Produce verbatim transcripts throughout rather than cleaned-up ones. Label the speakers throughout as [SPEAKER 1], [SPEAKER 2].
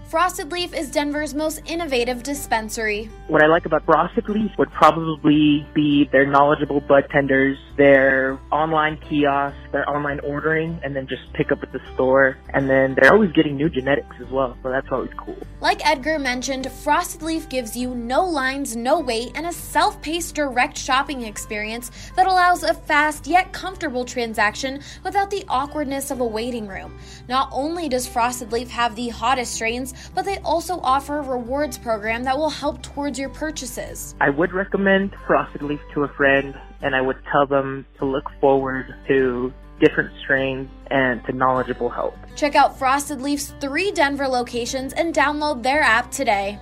[SPEAKER 1] Frosted Leaf is Denver's most innovative dispensary.
[SPEAKER 2] What I like about Frosted Leaf would probably be their knowledgeable bud tenders, their online kiosks, their online ordering, and then just pick up at the store. And then they're always getting new genetics as well, so that's always cool.
[SPEAKER 1] Like Edgar mentioned, Frosted Leaf gives you no lines, no wait, and a self-paced direct shopping experience that allows a fast yet comfortable transaction without the awkwardness of a waiting room. Not only does Frosted Leaf have the hottest strains, but they also offer a rewards program that will help towards your purchases.
[SPEAKER 2] I would recommend Frosted Leaf to a friend, and I would tell them to look forward to different strains and to knowledgeable help.
[SPEAKER 1] Check out Frosted Leaf's three Denver locations and download their app today.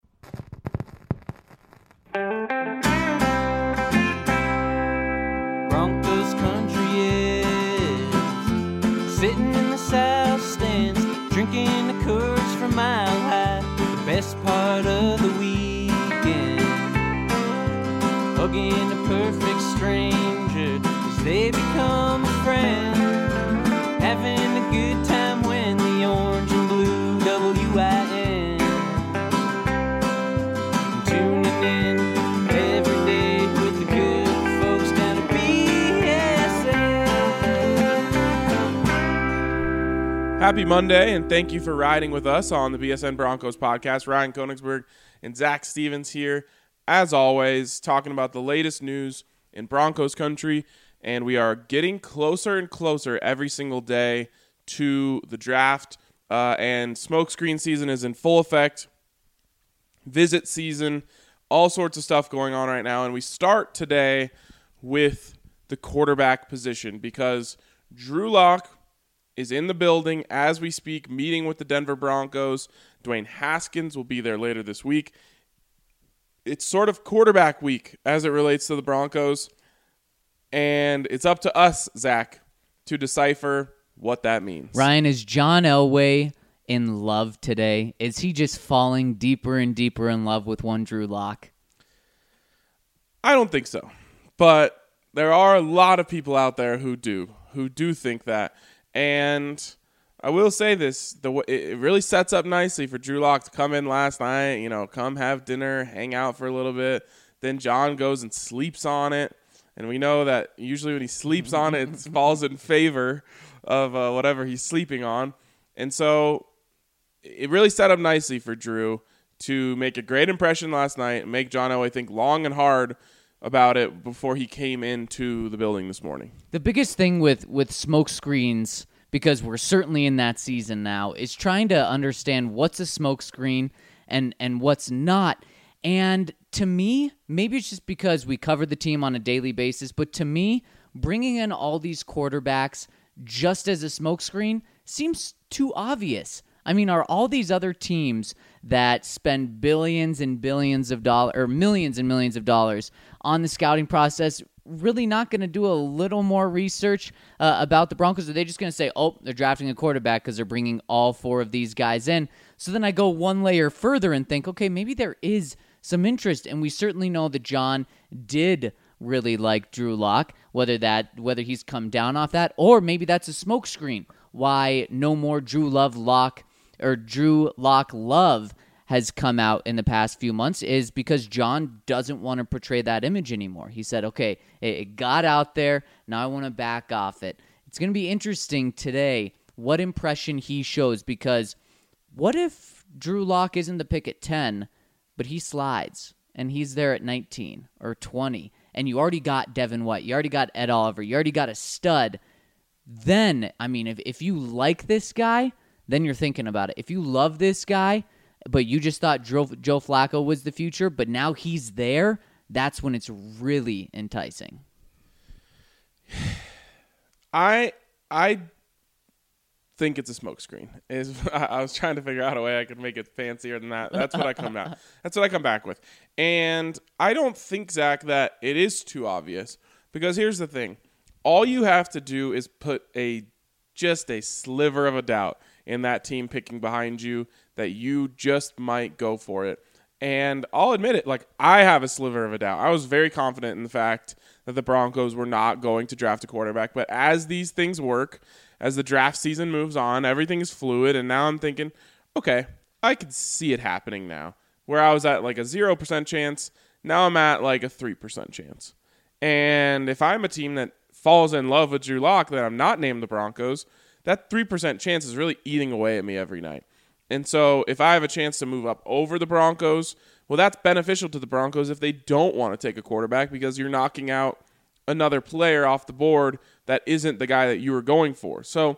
[SPEAKER 3] Broncos country is sitting in the south stands, drinking the Coors from Mile High, the best part of the weekend. Hugging a perfect stranger as they become a friend. Having a good time when the orange and blue W I N. Tuning in every day with the good folks down at B S N.
[SPEAKER 4] Happy Monday, and thank you for riding with us on the B S N Broncos podcast. Ryan Koenigsberg and Zach Stevens here, as always, talking about the latest news in Broncos country, and we are getting closer and closer every single day to the draft, uh, and smokescreen season is in full effect, visit season, all sorts of stuff going on right now, and we start today with the quarterback position because Drew Lock is in the building as we speak, meeting with the Denver Broncos. Dwayne Haskins will be there later this week. It's sort of quarterback week as it relates to the Broncos, and it's up to us, Zach, to decipher what that means.
[SPEAKER 5] Ryan, is John Elway in love today? Is he just falling deeper and deeper in love with one Drew Lock?
[SPEAKER 4] I don't think so, but there are a lot of people out there who do, who do think that. And I will say this, the it really sets up nicely for Drew Lock to come in last night, you know, come have dinner, hang out for a little bit. Then John goes and sleeps on it. And we know that usually when he sleeps on it, it falls in favor of uh, whatever he's sleeping on. And so it really set up nicely for Drew to make a great impression last night and make John Elway think long and hard about it before he came into the building this morning.
[SPEAKER 5] The biggest thing with, with smoke screens, because we're certainly in that season now, is trying to understand what's a smoke screen and, and what's not. And to me, maybe it's just because we cover the team on a daily basis, but to me, bringing in all these quarterbacks just as a smokescreen seems too obvious. I mean, are all these other teams that spend billions and billions of dollars, or millions and millions of dollars on the scouting process, really not going to do a little more research uh, about the Broncos? Are they just going to say, oh, they're drafting a quarterback because they're bringing all four of these guys in? So then I go one layer further and think, okay, maybe there is some interest, and we certainly know that John did really like Drew Lock, whether that whether he's come down off that, or maybe that's a smokescreen. Why no more Drew Love Lock or Drew Lock Love has come out in the past few months is because John doesn't want to portray that image anymore. He said, okay, it got out there, now I want to back off it. It's going to be interesting today what impression he shows, because what if Drew Lock isn't the pick at ten, but he slides, and he's there at nineteen or twenty, and you already got Devin White, you already got Ed Oliver, you already got a stud? Then, I mean, if, if you like this guy, then you're thinking about it. If you love this guy, but you just thought Joe, Joe Flacco was the future, but now he's there, that's when it's really enticing.
[SPEAKER 4] I I think it's a smokescreen. Is I was trying to figure out a way I could make it fancier than that. That's what I come out. That's what I come back with. And I don't think, Zach, that it is too obvious, because here's the thing: all you have to do is put a just a sliver of a doubt in that team picking behind you that you just might go for it. And I'll admit it, like, I have a sliver of a doubt. I was very confident in the fact that the Broncos were not going to draft a quarterback. But as these things work, as the draft season moves on, everything is fluid. And now I'm thinking, okay, I could see it happening now. Where I was at like a zero percent chance, now I'm at like a three percent chance. And if I'm a team that falls in love with Drew Lock, that I'm not named the Broncos, that three percent chance is really eating away at me every night. And so if I have a chance to move up over the Broncos, well, that's beneficial to the Broncos if they don't want to take a quarterback, because you're knocking out another player off the board that isn't the guy that you were going for. So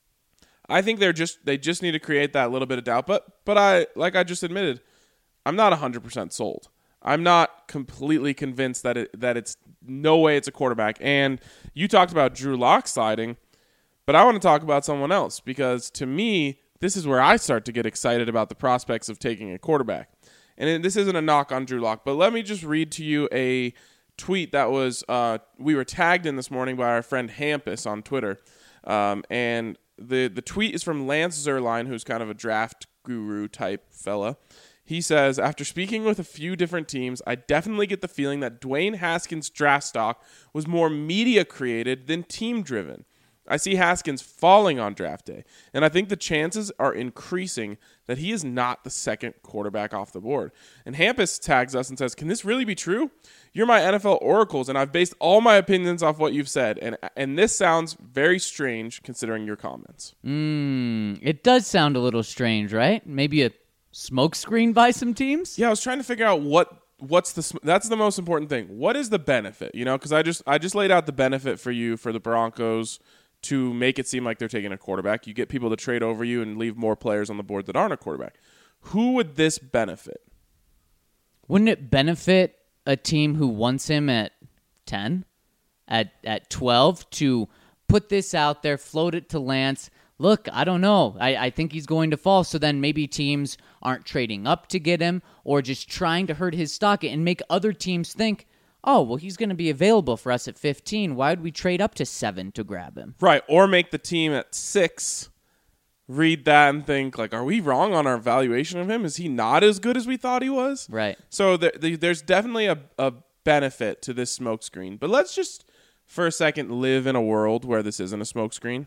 [SPEAKER 4] I think they're just they just need to create that little bit of doubt. But but I like I just admitted, I'm not one hundred percent sold. I'm not completely convinced that it that it's no way it's a quarterback. And you talked about Drew Lock sliding, but I want to talk about someone else, because to me, this is where I start to get excited about the prospects of taking a quarterback. And this isn't a knock on Drew Lock, but let me just read to you a tweet that was uh, we were tagged in this morning by our friend Hampus on Twitter. Um, and the, the tweet is from Lance Zerline, who's kind of a draft guru type fella. He says, after speaking with a few different teams, I definitely get the feeling that Dwayne Haskins' draft stock was more media created than team driven. I see Haskins falling on draft day, and I think the chances are increasing that he is not the second quarterback off the board. And Hampus tags us and says, can this really be true? You're my N F L oracles, and I've based all my opinions off what you've said, and and this sounds very strange considering your comments.
[SPEAKER 5] Mm, it does sound a little strange, right? Maybe a smokescreen by some teams?
[SPEAKER 4] Yeah, I was trying to figure out what what's the that's the most important thing. What is the benefit? You know, because I just I just laid out the benefit for you for the Broncos to make it seem like they're taking a quarterback. You get people to trade over you and leave more players on the board that aren't a quarterback. Who would this benefit?
[SPEAKER 5] Wouldn't it benefit a team who wants him at ten, at at twelve, to put this out there, float it to Lance? Look, I don't know. I, I think he's going to fall. So then maybe teams aren't trading up to get him, or just trying to hurt his stock and make other teams think, oh, well, he's going to be available for us at fifteen. Why would we trade up to seven to grab him?
[SPEAKER 4] Right, or make the team at six read that and think, like, are we wrong on our valuation of him? Is he not as good as we thought he was?
[SPEAKER 5] Right.
[SPEAKER 4] So there, there's definitely a, a benefit to this smokescreen. But let's just, for a second, live in a world where this isn't a smokescreen.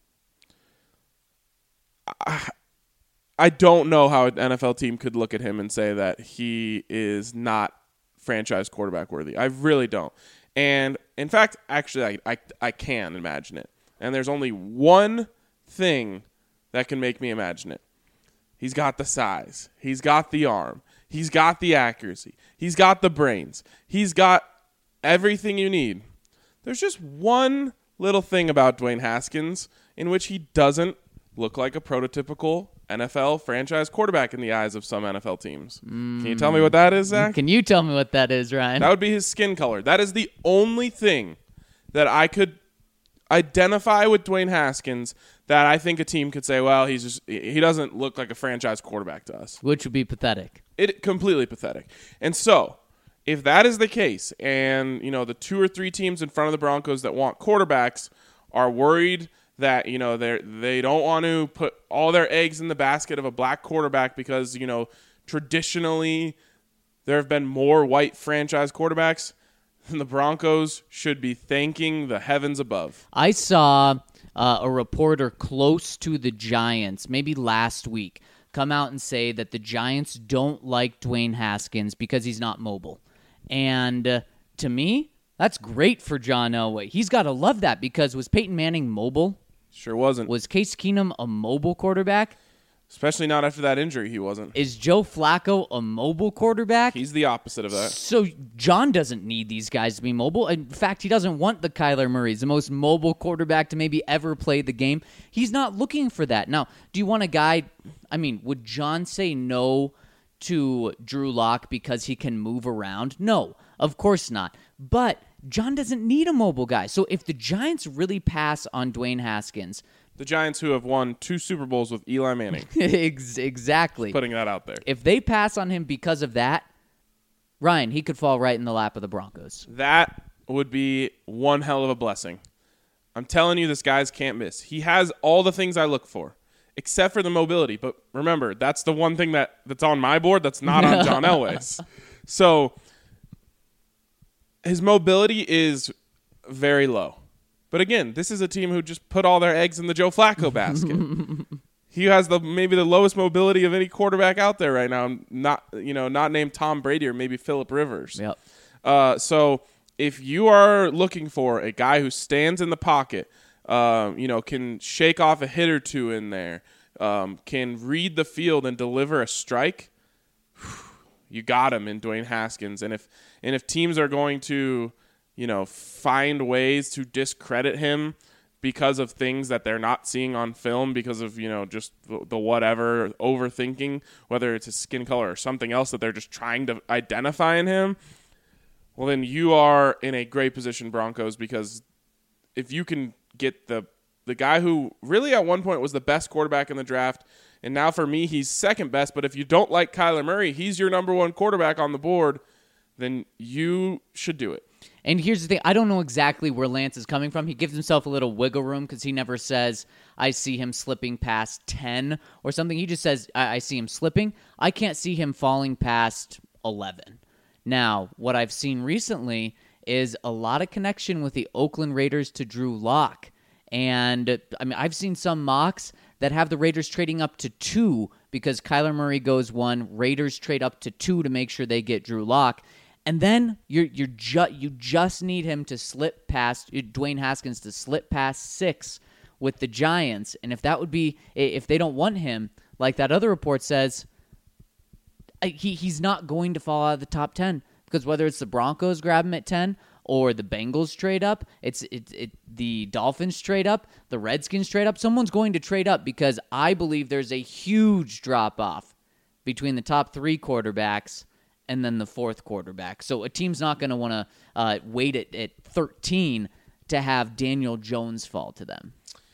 [SPEAKER 4] I, I don't know how an N F L team could look at him and say that he is not franchise quarterback worthy. I really don't. And in fact, actually, I, I I can imagine it. And there's only one thing that can make me imagine it. He's got the size. He's got the arm. He's got the accuracy. He's got the brains. He's got everything you need. There's just one little thing about Dwayne Haskins in which he doesn't look like a prototypical N F L franchise quarterback in the eyes of some N F L teams. Mm. Can you tell me what that is, Zach?
[SPEAKER 5] Can you tell me what that is, Ryan?
[SPEAKER 4] That would be his skin color. That is the only thing that I could identify with Dwayne Haskins that I think a team could say, well, he's just he doesn't look like a franchise quarterback to us.
[SPEAKER 5] Which would be pathetic.
[SPEAKER 4] It completely pathetic. And so, if that is the case, and you know the two or three teams in front of the Broncos that want quarterbacks are worried that, you know, they they don't want to put all their eggs in the basket of a black quarterback because, you know, traditionally there have been more white franchise quarterbacks, then the Broncos should be thanking the heavens above.
[SPEAKER 5] I saw uh, a reporter close to the Giants, maybe last week, come out and say that the Giants don't like Dwayne Haskins because he's not mobile. And uh, to me, that's great for John Elway. He's got to love that, because was Peyton Manning mobile?
[SPEAKER 4] Sure wasn't.
[SPEAKER 5] Was Case Keenum a mobile quarterback?
[SPEAKER 4] Especially not after that injury, he wasn't.
[SPEAKER 5] Is Joe Flacco a mobile quarterback?
[SPEAKER 4] He's the opposite of that.
[SPEAKER 5] So John doesn't need these guys to be mobile. In fact, he doesn't want the Kyler Murrays, the most mobile quarterback to maybe ever play the game. He's not looking for that. Now, do you want a guy, I mean, would John say no to Drew Lock because he can move around? No, of course not. But John doesn't need a mobile guy. So if the Giants really pass on Dwayne Haskins,
[SPEAKER 4] the Giants who have won two Super Bowls with Eli Manning.
[SPEAKER 5] Exactly.
[SPEAKER 4] Just putting that out there.
[SPEAKER 5] If they pass on him because of that, Ryan, he could fall right in the lap of the Broncos.
[SPEAKER 4] That would be one hell of a blessing. I'm telling you, this guy's can't miss. He has all the things I look for, except for the mobility. But remember, that's the one thing that, that's on my board that's not on John Elway's. So his mobility is very low. But again, this is a team who just put all their eggs in the Joe Flacco basket. he has the maybe the lowest mobility of any quarterback out there right now. Not you know not named Tom Brady or maybe Phillip Rivers.
[SPEAKER 5] Yep.
[SPEAKER 4] Uh, so if you are looking for a guy who stands in the pocket, uh, you know, can shake off a hit or two in there, um, can read the field and deliver a strike, you got him in Dwayne Haskins. And if and if teams are going to, you know, find ways to discredit him because of things that they're not seeing on film, because of, you know, just the, the whatever, overthinking, whether it's his skin color or something else that they're just trying to identify in him, well, then you are in a great position, Broncos, because if you can get the the guy who really at one point was the best quarterback in the draft, and now for me he's second best, but if you don't like Kyler Murray, he's your number one quarterback on the board, then you should do it.
[SPEAKER 5] And here's the thing. I don't know exactly where Lance is coming from. He gives himself a little wiggle room because he never says, I see him slipping past ten or something. He just says, I, I see him slipping. I can't see him falling past eleven. Now, what I've seen recently is a lot of connection with the Oakland Raiders to Drew Lock. And, I mean, I've seen some mocks that have the Raiders trading up to two because Kyler Murray goes one. Raiders trade up to two to make sure they get Drew Lock. And then you're you're ju- you just need him to slip past Dwayne Haskins to slip past six with the Giants. And if that would be if they don't want him, like that other report says, he he's not going to fall out of the top ten because whether it's the Broncos grab him at ten or the Bengals trade up, it's it, it the Dolphins trade up, the Redskins trade up. Someone's going to trade up because I believe there's a huge drop off between the top three quarterbacks and then the fourth quarterback. So a team's not going to want to uh, wait at, at thirteen to have Daniel Jones fall to them.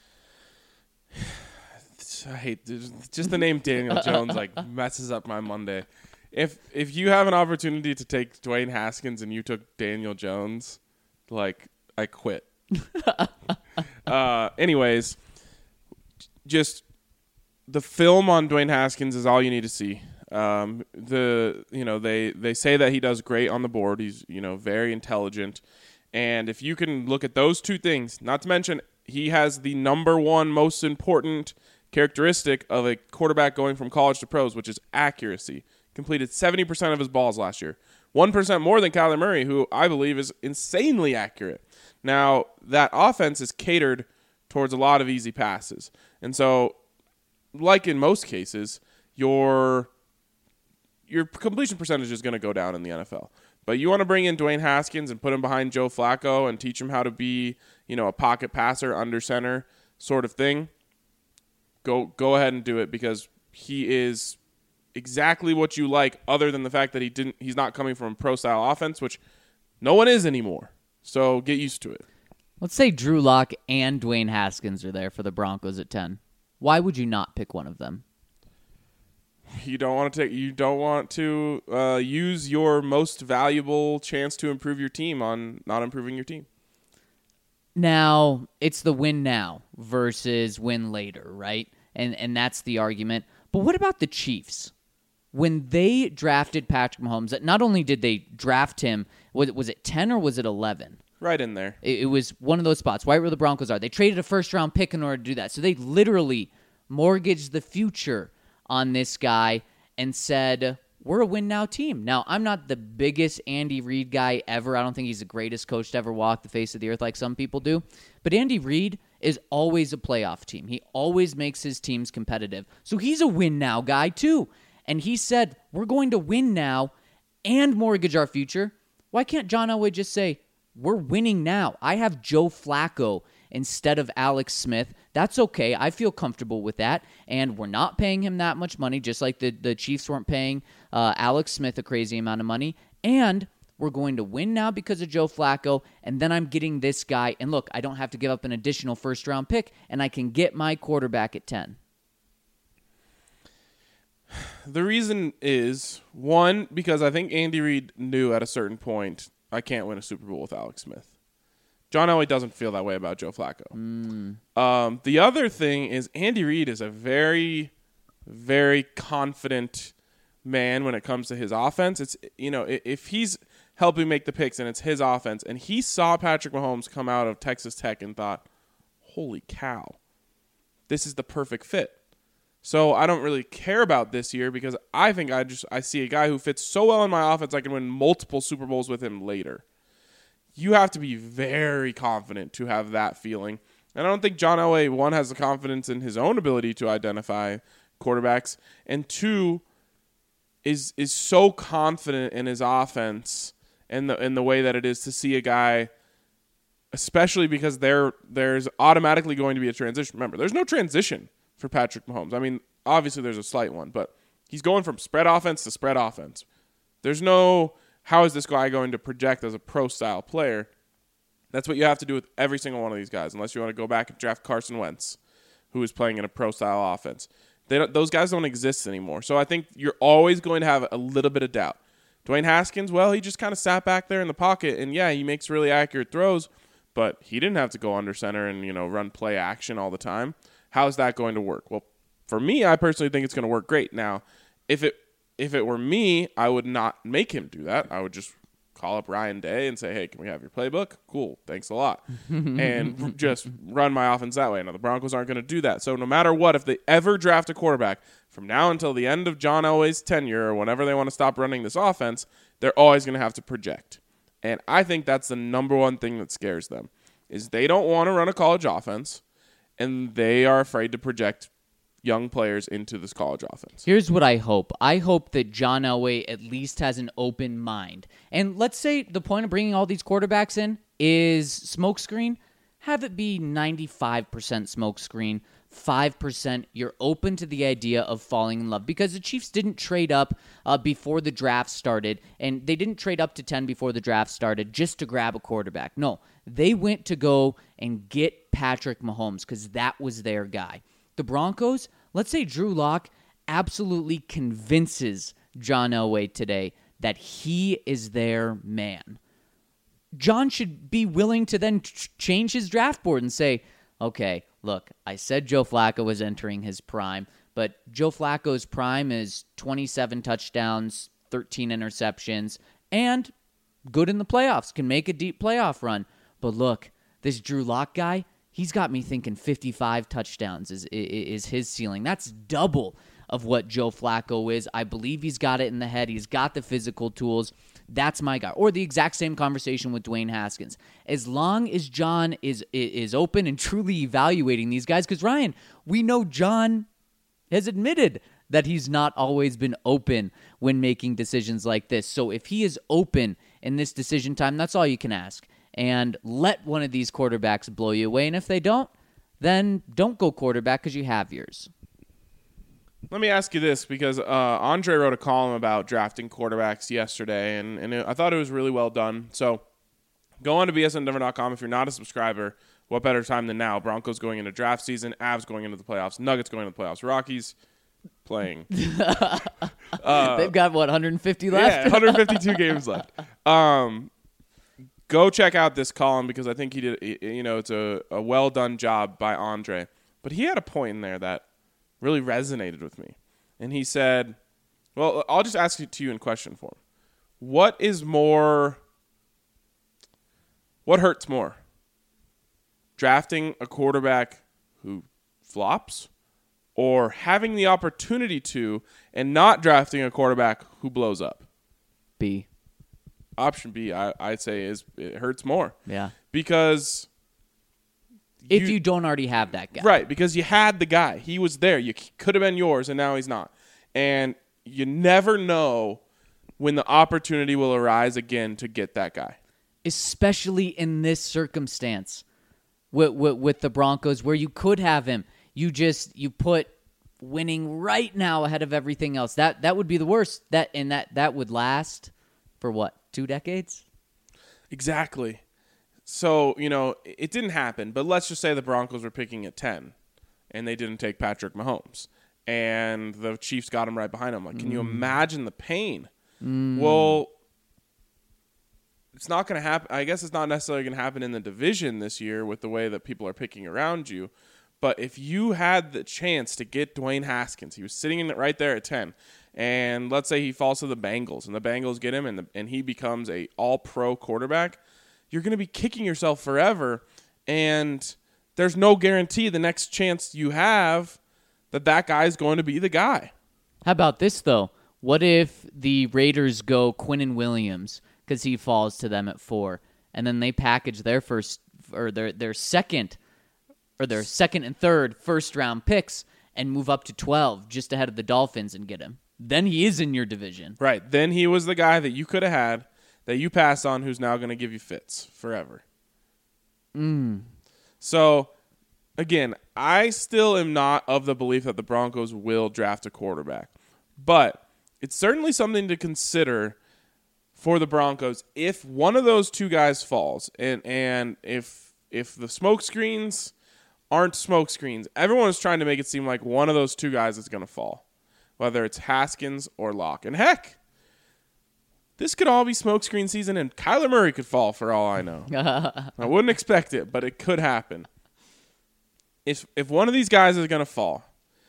[SPEAKER 4] I hate just the name Daniel Jones like messes up my Monday. If if you have an opportunity to take Dwayne Haskins and you took Daniel Jones, like I quit. uh, anyways, just the film on Dwayne Haskins is all you need to see. Um, the you know they, they say that he does great on the board. He's you know very intelligent, and if you can look at those two things, not to mention he has the number one most important characteristic of a quarterback going from college to pros, which is accuracy. Completed seventy percent of his balls last year, one percent more than Kyler Murray, who I believe is insanely accurate. Now that offense is catered towards a lot of easy passes, and so like in most cases, your your completion percentage is going to go down in the N F L. But you want to bring in Dwayne Haskins and put him behind Joe Flacco and teach him how to be, you know, a pocket passer, under center sort of thing. Go go ahead and do it because he is exactly what you like, other than the fact that he didn't he's not coming from a pro style offense, which no one is anymore. So get used to it.
[SPEAKER 5] Let's say Drew Lock and Dwayne Haskins are there for the Broncos at ten. Why would you not pick one of them?
[SPEAKER 4] You don't want to take. You don't want to uh, use your most valuable chance to improve your team on not improving your team.
[SPEAKER 5] Now it's the win now versus win later, right? And and that's the argument. But what about the Chiefs? When they drafted Patrick Mahomes, not only did they draft him, was it, was it ten or was it eleven?
[SPEAKER 4] Right in there.
[SPEAKER 5] It, it was one of those spots right where the Broncos are. They traded a first round pick in order to do that. So they literally mortgaged the future on this guy and said, we're a win-now team. Now, I'm not the biggest Andy Reid guy ever. I don't think he's the greatest coach to ever walk the face of the earth like some people do. But Andy Reid is always a playoff team. He always makes his teams competitive. So he's a win-now guy, too. And he said, we're going to win now and mortgage our future. Why can't John Elway just say, we're winning now? I have Joe Flacco instead of Alex Smith. That's okay. I feel comfortable with that. And we're not paying him that much money, just like the, the Chiefs weren't paying uh, Alex Smith a crazy amount of money. And we're going to win now because of Joe Flacco. And then I'm getting this guy. And look, I don't have to give up an additional first-round pick, and I can get my quarterback at ten.
[SPEAKER 4] The reason is, one, because I think Andy Reid knew at a certain point, I can't win a Super Bowl with Alex Smith. John Elway doesn't feel that way about Joe Flacco. Mm. Um, the other thing is Andy Reid is a very, very confident man when it comes to his offense. It's you know if he's helping make the picks and it's his offense, and he saw Patrick Mahomes come out of Texas Tech and thought, "Holy cow, this is the perfect fit." So I don't really care about this year because I think I just I see a guy who fits so well in my offense I can win multiple Super Bowls with him later. You have to be very confident to have that feeling. And I don't think John Elway, one, has the confidence in his own ability to identify quarterbacks, and two, is is so confident in his offense and the in the way that it is to see a guy, especially because there there's automatically going to be a transition. Remember, there's no transition for Patrick Mahomes. I mean, obviously there's a slight one, but he's going from spread offense to spread offense. There's no, how is this guy going to project as a pro-style player? That's what you have to do with every single one of these guys, unless you want to go back and draft Carson Wentz, who is playing in a pro-style offense. They don't, those guys don't exist anymore. So I think you're always going to have a little bit of doubt. Dwayne Haskins, well, he just kind of sat back there in the pocket, and yeah, he makes really accurate throws, but he didn't have to go under center and, you know, run play action all the time. How's that going to work? Well, for me, I personally think it's going to work great. Now, if it if it were me, I would not make him do that. I would just call up Ryan Day and say, hey, can we have your playbook? Cool, thanks a lot. And just run my offense that way. Now, the Broncos aren't going to do that. So no matter what, if they ever draft a quarterback, from now until the end of John Elway's tenure or whenever they want to stop running this offense, they're always going to have to project. And I think that's the number one thing that scares them, is they don't want to run a college offense, and they are afraid to project young players into this college offense.
[SPEAKER 5] Here's what I hope. I hope that John Elway at least has an open mind. And let's say the point of bringing all these quarterbacks in is smokescreen. Have it be ninety-five percent smokescreen, five percent you're open to the idea of falling in love. Because the Chiefs didn't trade up uh, before the draft started, and they didn't trade up to ten before the draft started just to grab a quarterback. No, they went to go and get Patrick Mahomes because that was their guy. The Broncos, let's say Drew Lock absolutely convinces John Elway today that he is their man. John should be willing to then ch- change his draft board and say, okay, look, I said Joe Flacco was entering his prime, but Joe Flacco's prime is twenty-seven touchdowns, thirteen interceptions, and good in the playoffs, can make a deep playoff run. But look, this Drew Lock guy, he's got me thinking fifty-five touchdowns is, is is his ceiling. That's double of what Joe Flacco is. I believe he's got it in the head. He's got the physical tools. That's my guy. Or the exact same conversation with Dwayne Haskins. As long as John is is open and truly evaluating these guys, because Ryan, we know John has admitted that he's not always been open when making decisions like this. So if he is open in this decision time, that's all you can ask. And let one of these quarterbacks blow you away. And if they don't, then don't go quarterback because you have yours.
[SPEAKER 4] Let me ask you this, because uh, Andre wrote a column about drafting quarterbacks yesterday, and, and it, I thought it was really well done. So go on to B S N Denver dot com if you're not a subscriber. What better time than now? Broncos going into draft season, Avs going into the playoffs, Nuggets going into the playoffs, Rockies playing. uh,
[SPEAKER 5] They've got, what, one hundred fifty left?
[SPEAKER 4] Yeah, one hundred fifty-two games left. Um, go check out this column because I think he did, you know, it's a, a well-done job by Andre. But he had a point in there that really resonated with me. And he said, well, I'll just ask it to you in question form. What is more, what hurts more? Drafting a quarterback who flops or having the opportunity to and not drafting a quarterback who blows up?
[SPEAKER 5] B.
[SPEAKER 4] Option B, I, I'd say, is it hurts more.
[SPEAKER 5] Yeah.
[SPEAKER 4] Because
[SPEAKER 5] if you, you don't already have that guy.
[SPEAKER 4] Right, because you had the guy. He was there. You could have been yours, and now he's not. And you never know when the opportunity will arise again to get that guy.
[SPEAKER 5] Especially in this circumstance with, with, with the Broncos where you could have him. You just, you put winning right now ahead of everything else. That that would be the worst. That And that, that would last for what, two decades?
[SPEAKER 4] Exactly. So, you know, it didn't happen, but let's just say the Broncos were picking at ten, and they didn't take Patrick Mahomes, and the Chiefs got him right behind him. Like, can mm. you imagine the pain? Mm. Well, it's not going to happen. I guess it's not necessarily going to happen in the division this year with the way that people are picking around you, but if you had the chance to get Dwayne Haskins, he was sitting in it right there at ten, and let's say he falls to the Bengals, and the Bengals get him, and, the, and he becomes a all-pro quarterback, you're going to be kicking yourself forever, and there's no guarantee the next chance you have that that guy is going to be the guy.
[SPEAKER 5] How about this, though? What if the Raiders go Quinnen Williams because he falls to them at four, and then they package their first or their their second or their second and third first round picks and move up to twelve just ahead of the Dolphins and get him? Then he is in your division.
[SPEAKER 4] Right. Then he was the guy that you could have had that you passed on, who's now going to give you fits forever.
[SPEAKER 5] Mm.
[SPEAKER 4] So, again, I still am not of the belief that the Broncos will draft a quarterback. But it's certainly something to consider for the Broncos if one of those two guys falls. And, and if if the smoke screens aren't smoke screens, everyone is trying to make it seem like one of those two guys is going to fall, whether it's Haskins or Locke. And heck, this could all be smokescreen season, and Kyler Murray could fall for all I know. I wouldn't expect it, but it could happen. If if one of these guys is going to fall,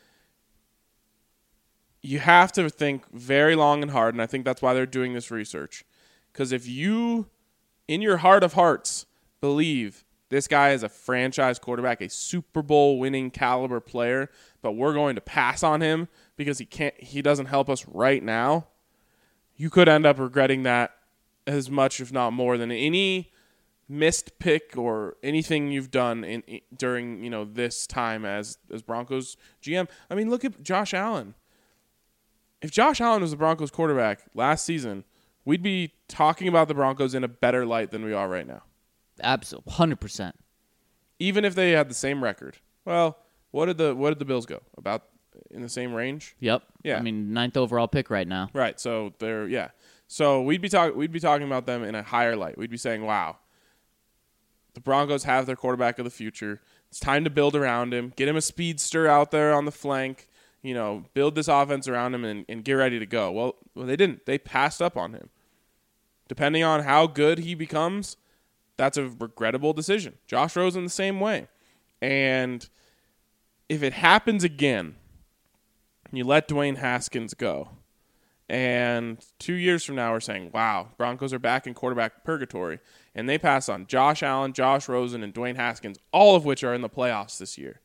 [SPEAKER 4] you have to think very long and hard, and I think that's why they're doing this research. Because if you, in your heart of hearts, believe this guy is a franchise quarterback, a Super Bowl winning caliber player, but we're going to pass on him because he can't, he doesn't help us right now, you could end up regretting that as much, if not more, than any missed pick or anything you've done in, in during you know this time as as Broncos G M. I mean, look at Josh Allen. If Josh Allen was the Broncos quarterback last season, we'd be talking about the Broncos in a better light than we are right now.
[SPEAKER 5] Absolutely, one hundred percent.
[SPEAKER 4] Even if they had the same record. Well, what did the what did the Bills go? About in the same range?
[SPEAKER 5] Yep.
[SPEAKER 4] Yeah.
[SPEAKER 5] I mean, ninth overall pick right now.
[SPEAKER 4] Right. So they're yeah. So we'd be talking we'd be talking about them in a higher light. We'd be saying, "Wow, the Broncos have their quarterback of the future. It's time to build around him. Get him a speedster out there on the flank. You know, build this offense around him and, and get ready to go." Well, well, they didn't. They passed up on him. Depending on how good he becomes, that's a regrettable decision. Josh Rosen the same way. And if it happens again, you let Dwayne Haskins go, and two years from now we're saying, wow, Broncos are back in quarterback purgatory, and they pass on Josh Allen, Josh Rosen, and Dwayne Haskins, all of which are in the playoffs this year,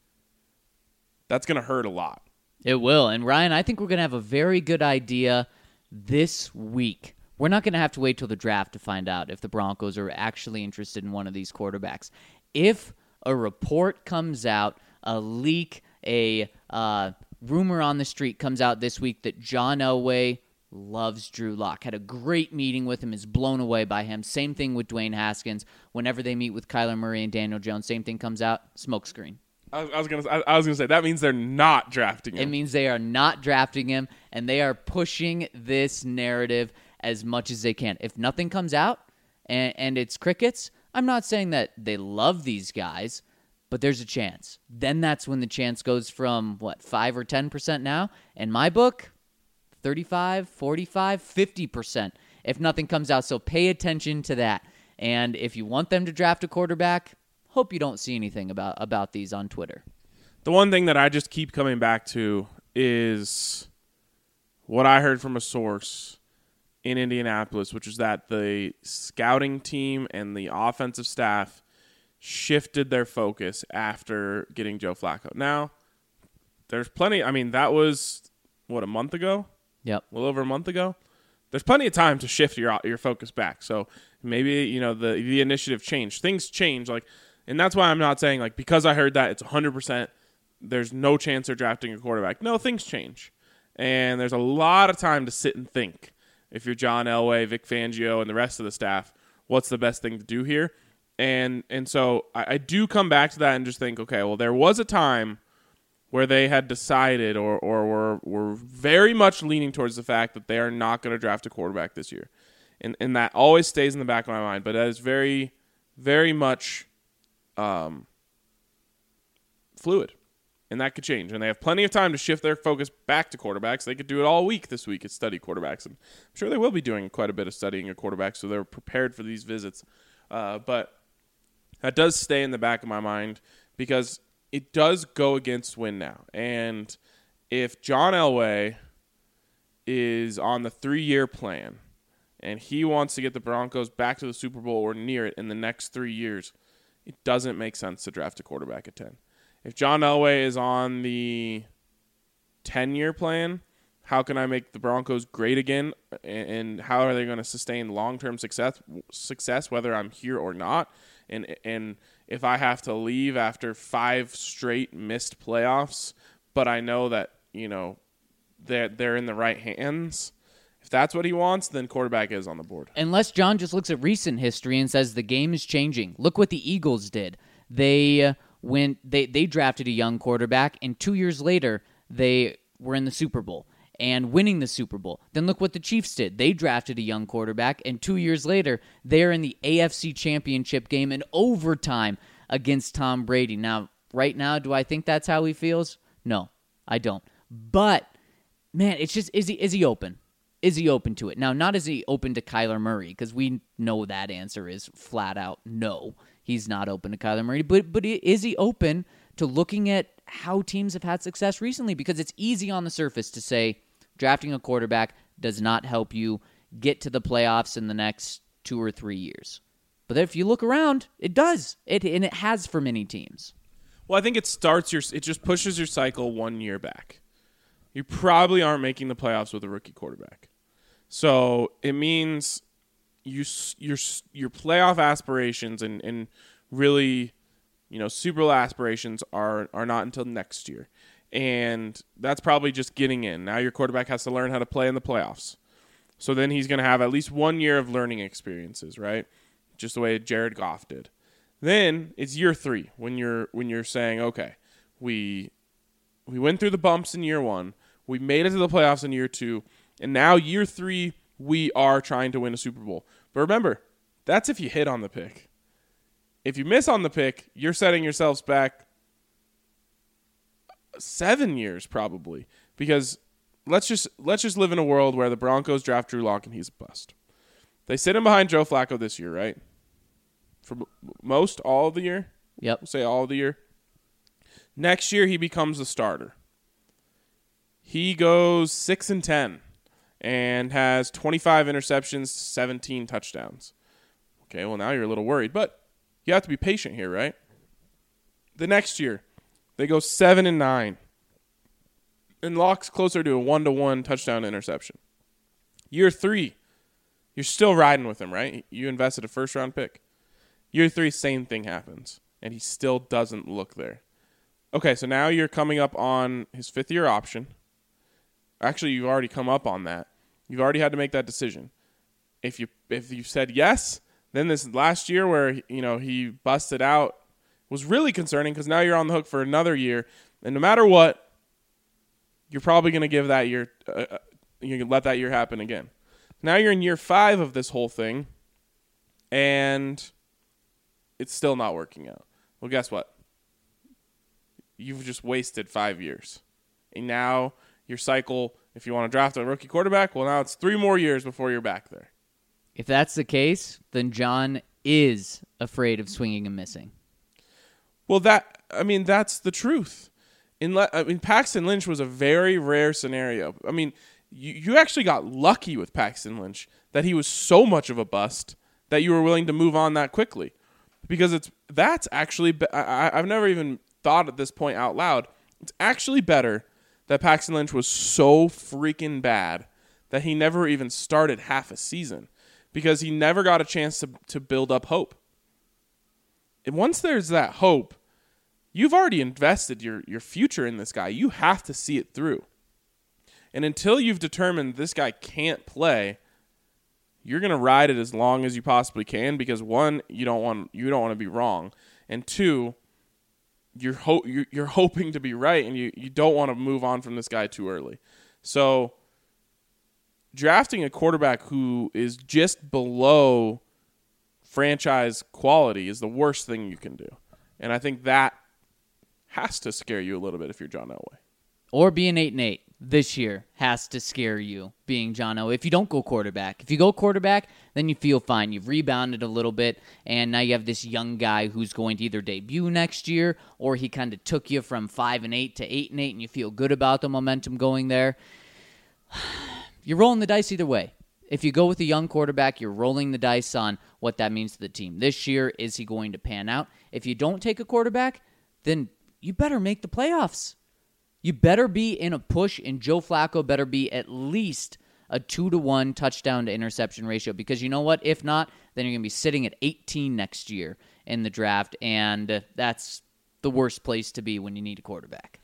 [SPEAKER 4] that's going to hurt a lot.
[SPEAKER 5] It will. And Ryan, I think we're going to have a very good idea this week. We're not going to have to wait till the draft to find out if the Broncos are actually interested in one of these quarterbacks. If a report comes out, a leak, a uh, rumor on the street comes out this week that John Elway loves Drew Lock, had a great meeting with him, is blown away by him. Same thing with Dwayne Haskins. Whenever they meet with Kyler Murray and Daniel Jones, same thing comes out, smokescreen.
[SPEAKER 4] I was, I was gonna. I, I was gonna say that means they're not drafting him.
[SPEAKER 5] It means they are not drafting him, and they are pushing this narrative as much as they can. If nothing comes out and, and it's crickets, I'm not saying that they love these guys, but there's a chance. Then that's when the chance goes from, what, five or ten percent now? In my book, thirty-five, forty-five, fifty percent if nothing comes out. So pay attention to that. And if you want them to draft a quarterback, hope you don't see anything about, about these on Twitter.
[SPEAKER 4] The one thing that I just keep coming back to is what I heard from a source in Indianapolis, which is that the scouting team and the offensive staff shifted their focus after getting Joe Flacco. Now, there's plenty. I mean, that was, what, a month ago?
[SPEAKER 5] Yep.
[SPEAKER 4] A little over a month ago? There's plenty of time to shift your your focus back. So maybe, you know, the the initiative changed. Things change. Like, and that's why I'm not saying, like, because I heard that, it's one hundred percent, there's no chance they're drafting a quarterback. No, things change. And there's a lot of time to sit and think. If you're John Elway, Vic Fangio, and the rest of the staff, what's the best thing to do here? And and so I, I do come back to that and just think, okay, well, there was a time where they had decided or, or were, were very much leaning towards the fact that they are not going to draft a quarterback this year. And and that always stays in the back of my mind. But that is very, very much um, fluid. And that could change. And they have plenty of time to shift their focus back to quarterbacks. They could do it all week this week, is study quarterbacks. And I'm sure they will be doing quite a bit of studying a quarterback, so they're prepared for these visits. Uh, but that does stay in the back of my mind because it does go against win now. And if John Elway is on the three-year plan and he wants to get the Broncos back to the Super Bowl or near it in the next three years, it doesn't make sense to draft a quarterback at ten. If John Elway is on the ten-year plan. How can I make the Broncos great again, and how are they going to sustain long-term success, success whether I'm here or not? And and if I have to leave after five straight missed playoffs, but I know that, you know, they're, they're in the right hands, if that's what he wants, then quarterback is on the board.
[SPEAKER 5] Unless John just looks at recent history and says the game is changing. Look what the Eagles did. They uh, went, they, they drafted a young quarterback, and two years later, they were in the Super Bowl and winning the Super Bowl. Then look what the Chiefs did. They drafted a young quarterback, and two years later, they're in the A F C Championship game in overtime against Tom Brady. Now, right now, do I think that's how he feels? No, I don't. But, man, it's just, is he is he open? Is he open to it? Now, not is he open to Kyler Murray, because we know that answer is flat out no. He's not open to Kyler Murray. But, but is he open to looking at how teams have had success recently? Because it's easy on the surface to say drafting a quarterback does not help you get to the playoffs in the next two or three years. But if you look around, it does. It and it has for many teams.
[SPEAKER 4] Well, I think it starts your it just pushes your cycle one year back. You probably aren't making the playoffs with a rookie quarterback. So it means you your your playoff aspirations and, and really, you know, Super Bowl aspirations are are not until next year. And that's probably just getting in. Now your quarterback has to learn how to play in the playoffs. So then he's going to have at least one year of learning experiences, right? Just the way Jared Goff did. Then it's year three when you're when you're saying, okay, we we went through the bumps in year one, we made it to the playoffs in year two, and now year three we are trying to win a Super Bowl. But remember, that's if you hit on the pick. If you miss on the pick, you're setting yourselves back seven years probably, because let's just let's just live in a world where the Broncos draft Drew Lock and he's a bust. They sit him behind Joe Flacco this year, right? For most, all of the year?
[SPEAKER 5] Yep.
[SPEAKER 4] We'll say all of the year. Next year, he becomes the starter. He goes six and ten and has twenty-five interceptions, seventeen touchdowns. Okay, well, now you're a little worried, but you have to be patient here, right? The next year, they go seven and nine, and Lock's closer to a one-to-one touchdown interception. Year three, you're still riding with him, right? You invested a first-round pick. Year three, same thing happens, and he still doesn't look there. Okay, so now you're coming up on his fifth-year option. Actually, you've already come up on that. You've already had to make that decision. If you if you said yes, then this last year where, you know, he busted out was really concerning, because now you're on the hook for another year, and no matter what, you're probably going to give that year, uh, you can let that year happen again. Now you're in year five of this whole thing, and it's still not working out. Well, guess what? You've just wasted five years. And now your cycle, if you want to draft a rookie quarterback, well, now it's three more years before you're back there.
[SPEAKER 5] If that's the case, then John is afraid of swinging and missing.
[SPEAKER 4] Well, that I mean, that's the truth. In le- I mean, Paxton Lynch was a very rare scenario. I mean, you, you actually got lucky with Paxton Lynch that he was so much of a bust that you were willing to move on that quickly. Because it's that's actually be- I, I've never even thought at this point out loud. It's actually better that Paxton Lynch was so freaking bad that he never even started half a season, because he never got a chance to to build up hope. And once there's that hope, you've already invested your your future in this guy. You have to see it through. And until you've determined this guy can't play, you're going to ride it as long as you possibly can, because one, you don't want you don't want to be wrong, and two, you're ho- you're, you're hoping to be right, and you, you don't want to move on from this guy too early. So drafting a quarterback who is just below franchise quality is the worst thing you can do. And I think that has to scare you a little bit if you're John Elway.
[SPEAKER 5] Or being eight and eight this year has to scare you, being John Elway. If you don't go quarterback, if you go quarterback, then you feel fine. You've rebounded a little bit, and now you have this young guy who's going to either debut next year, or he kind of took you from five and eight to eight and eight, and you feel good about the momentum going there. You're rolling the dice either way. If you go with a young quarterback, you're rolling the dice on what that means to the team. This year, is he going to pan out? If you don't take a quarterback, then you better make the playoffs. you better be in a push, and Joe Flacco better be at least a two to one touchdown to interception ratio, because you know what? If not, then you're going to be sitting at eighteen next year in the draft, and that's the worst place to be when you need a quarterback.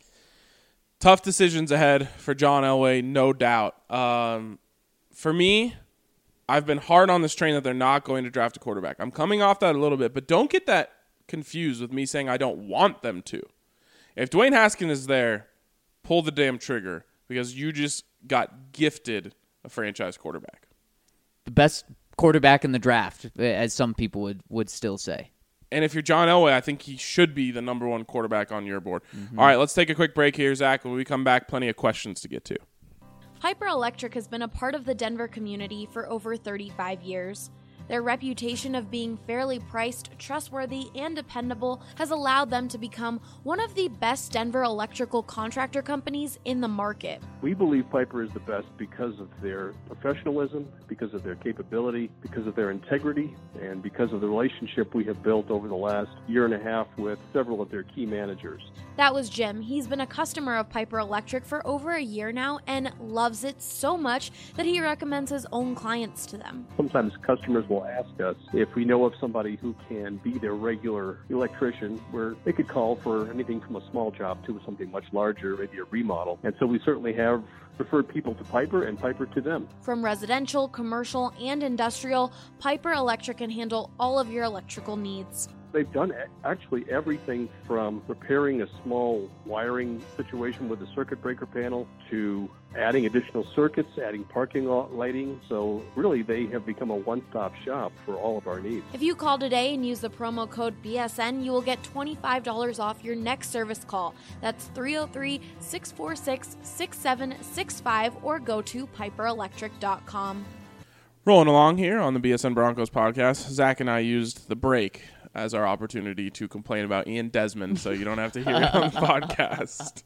[SPEAKER 4] Tough decisions ahead for John Elway, no doubt. Um, for me, I've been hard on this train that they're not going to draft a quarterback. I'm coming off that a little bit, but don't get that confused with me saying I don't want them to. If Dwayne Haskins is there, pull the damn trigger, because you just got gifted a franchise quarterback.
[SPEAKER 5] The best quarterback in the draft, as some people would, would still say.
[SPEAKER 4] And if you're John Elway, I think he should be the number one quarterback on your board. Mm-hmm. All right, let's take a quick break here, Zach. When we come back, plenty of questions to get to.
[SPEAKER 1] Piper Electric has been a part of the Denver community for over thirty-five years. Their reputation of being fairly priced, trustworthy, and dependable has allowed them to become one of the best Denver electrical contractor companies in the market.
[SPEAKER 6] We believe Piper is the best because of their professionalism, because of their capability, because of their integrity, and because of the relationship we have built over the last year and a half with several of their key managers.
[SPEAKER 1] That was Jim. He's been a customer of Piper Electric for over a year now and loves it so much that he recommends his own clients to them.
[SPEAKER 6] Sometimes customers will ask us if we know of somebody who can be their regular electrician, where they could call for anything from a small job to something much larger, maybe a remodel. And so we certainly have referred people to Piper and Piper to them.
[SPEAKER 1] From residential, commercial, and industrial, Piper Electric can handle all of your electrical needs.
[SPEAKER 6] They've done actually everything from repairing a small wiring situation with a circuit breaker panel to adding additional circuits, adding parking lot lighting. So really, they have become a one-stop shop for all of our needs.
[SPEAKER 1] If you call today and use the promo code B S N, you will get twenty-five dollars off your next service call. That's three oh three, six four six, six seven six five or go to piper electric dot com.
[SPEAKER 4] Rolling along here on the B S N Broncos podcast, Zach and I used the break as our opportunity to complain about Ian Desmond, so you don't have to hear it on the podcast.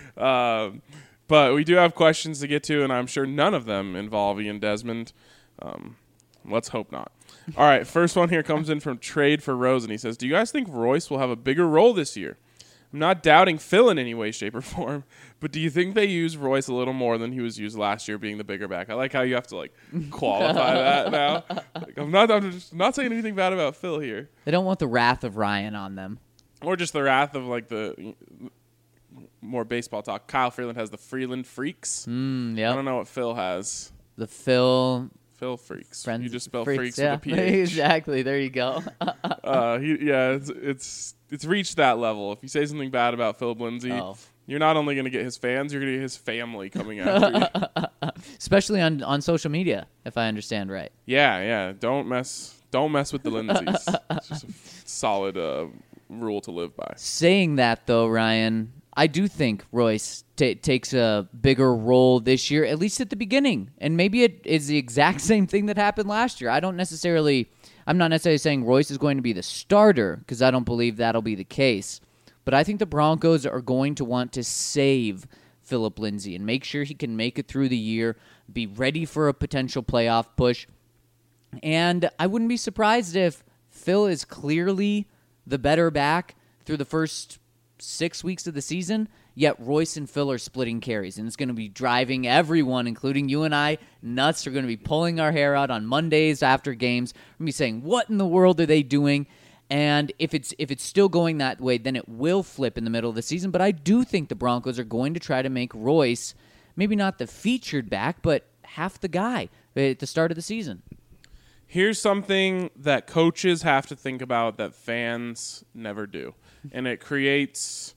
[SPEAKER 4] Um, but we do have questions to get to, and I'm sure none of them involve Ian Desmond. Um, let's hope not. All right, first one here comes in from Trade for Rose, and he says, do you guys think Royce will have a bigger role this year? I'm not doubting Phil in any way, shape, or form, but do you think they use Royce a little more than he was used last year, being the bigger back? I like how you have to like qualify that now. Like, I'm not, I'm just not saying anything bad about Phil here.
[SPEAKER 5] They don't want the wrath of Ryan on them,
[SPEAKER 4] or just the wrath of like the more baseball talk. Kyle Freeland has the Freeland Freaks.
[SPEAKER 5] Mm, yep.
[SPEAKER 4] I don't know what Phil has.
[SPEAKER 5] The Phil.
[SPEAKER 4] Phil Freaks.
[SPEAKER 5] Friends,
[SPEAKER 4] you just spell
[SPEAKER 5] freaks,
[SPEAKER 4] freaks
[SPEAKER 5] yeah.
[SPEAKER 4] with a P H.
[SPEAKER 5] Exactly. There you go.
[SPEAKER 4] uh, he, yeah, it's, it's it's reached that level. If you say something bad about Philip Lindsay,
[SPEAKER 5] oh.
[SPEAKER 4] you're not only going to get his fans, you're going to get his family coming after you.
[SPEAKER 5] Especially on, on social media, if I understand right.
[SPEAKER 4] Yeah, yeah. Don't mess don't mess with the Lindsays. It's just a solid uh, rule to live by.
[SPEAKER 5] Saying that, though, Ryan, I do think Royce t- takes a bigger role this year, at least at the beginning. And maybe it is the exact same thing that happened last year. I don't necessarily, I'm not necessarily saying Royce is going to be the starter, because I don't believe that'll be the case. But I think the Broncos are going to want to save Philip Lindsay and make sure he can make it through the year, be ready for a potential playoff push. And I wouldn't be surprised if Phil is clearly the better back through the first six weeks of the season, yet Royce and Phil are splitting carries, and it's going to be driving everyone, including you and I, nuts. We're going to be pulling our hair out on Mondays after games. We're going to be saying, what in the world are they doing? And if it's if it's still going that way, then it will flip in the middle of the season. But I do think the Broncos are going to try to make Royce maybe not the featured back, but half the guy at the start of the season.
[SPEAKER 4] Here's something that coaches have to think about that fans never do. And it creates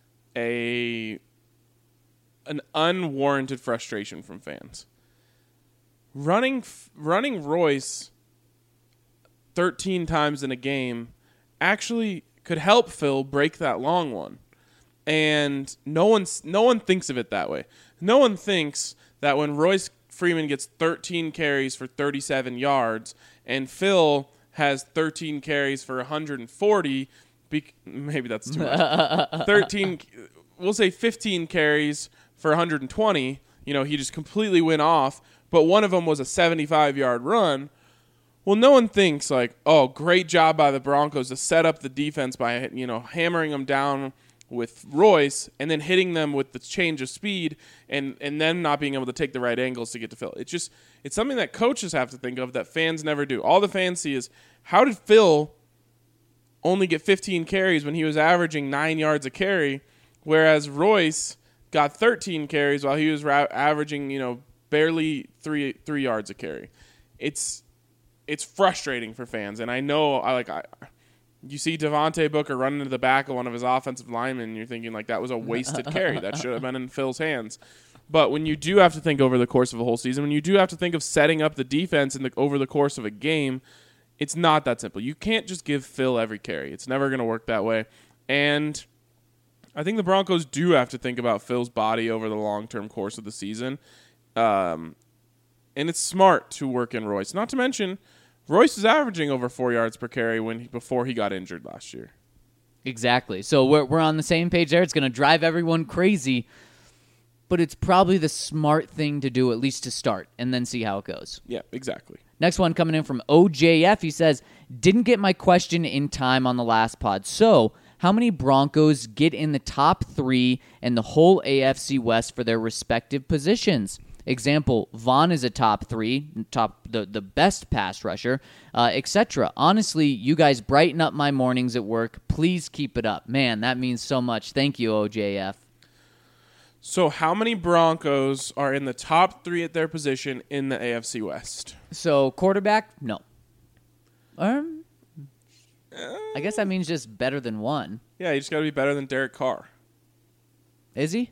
[SPEAKER 4] a an unwarranted frustration from fans. Running running Royce thirteen times in a game actually could help Phil break that long one. And no one's no one thinks of it that way. No one thinks that when Royce Freeman gets thirteen carries for thirty-seven yards and Phil has thirteen carries for one hundred forty, Be- maybe that's too much. thirteen, we'll say fifteen carries for one hundred twenty. You know, he just completely went off, but one of them was a seventy-five-yard run. Well, no one thinks like, oh, great job by the Broncos to set up the defense by, you know, hammering them down with Royce and then hitting them with the change of speed and, and then not being able to take the right angles to get to Phil. It's just it's something that coaches have to think of that fans never do. All the fans see is how did Phil only get fifteen carries when he was averaging nine yards a carry, whereas Royce got thirteen carries while he was ra- averaging, you know, barely three three yards a carry. It's it's frustrating for fans, and I know I like I. You see Devontae Booker running to the back of one of his offensive linemen, and you're thinking like that was a wasted carry. That should have been in Phil's hands. But when you do have to think over the course of a whole season, when you do have to think of setting up the defense in the, over the course of a game, it's not that simple. You can't just give Phil every carry. It's never going to work that way. And I think the Broncos do have to think about Phil's body over the long-term course of the season. Um, and it's smart to work in Royce. Not to mention, Royce is averaging over four yards per carry when he, before he got injured last year.
[SPEAKER 5] Exactly. So we're we're on the same page there. It's going to drive everyone crazy, but it's probably the smart thing to do, at least to start, and then see how it goes.
[SPEAKER 4] Yeah, exactly.
[SPEAKER 5] Next one coming in from O J F. He says, didn't get my question in time on the last pod. So how many Broncos get in the top three and the whole A F C West for their respective positions? Example, Vaughn is a top three, top the, the best pass rusher, uh, et cetera. Honestly, you guys brighten up my mornings at work. Please keep it up. Man, that means so much. Thank you, O J F.
[SPEAKER 4] So how many Broncos are in the top three at their position in the A F C West?
[SPEAKER 5] So quarterback, no. Um, I guess that means just better than one.
[SPEAKER 4] Yeah, you just got to be better than Derek Carr.
[SPEAKER 5] Is he?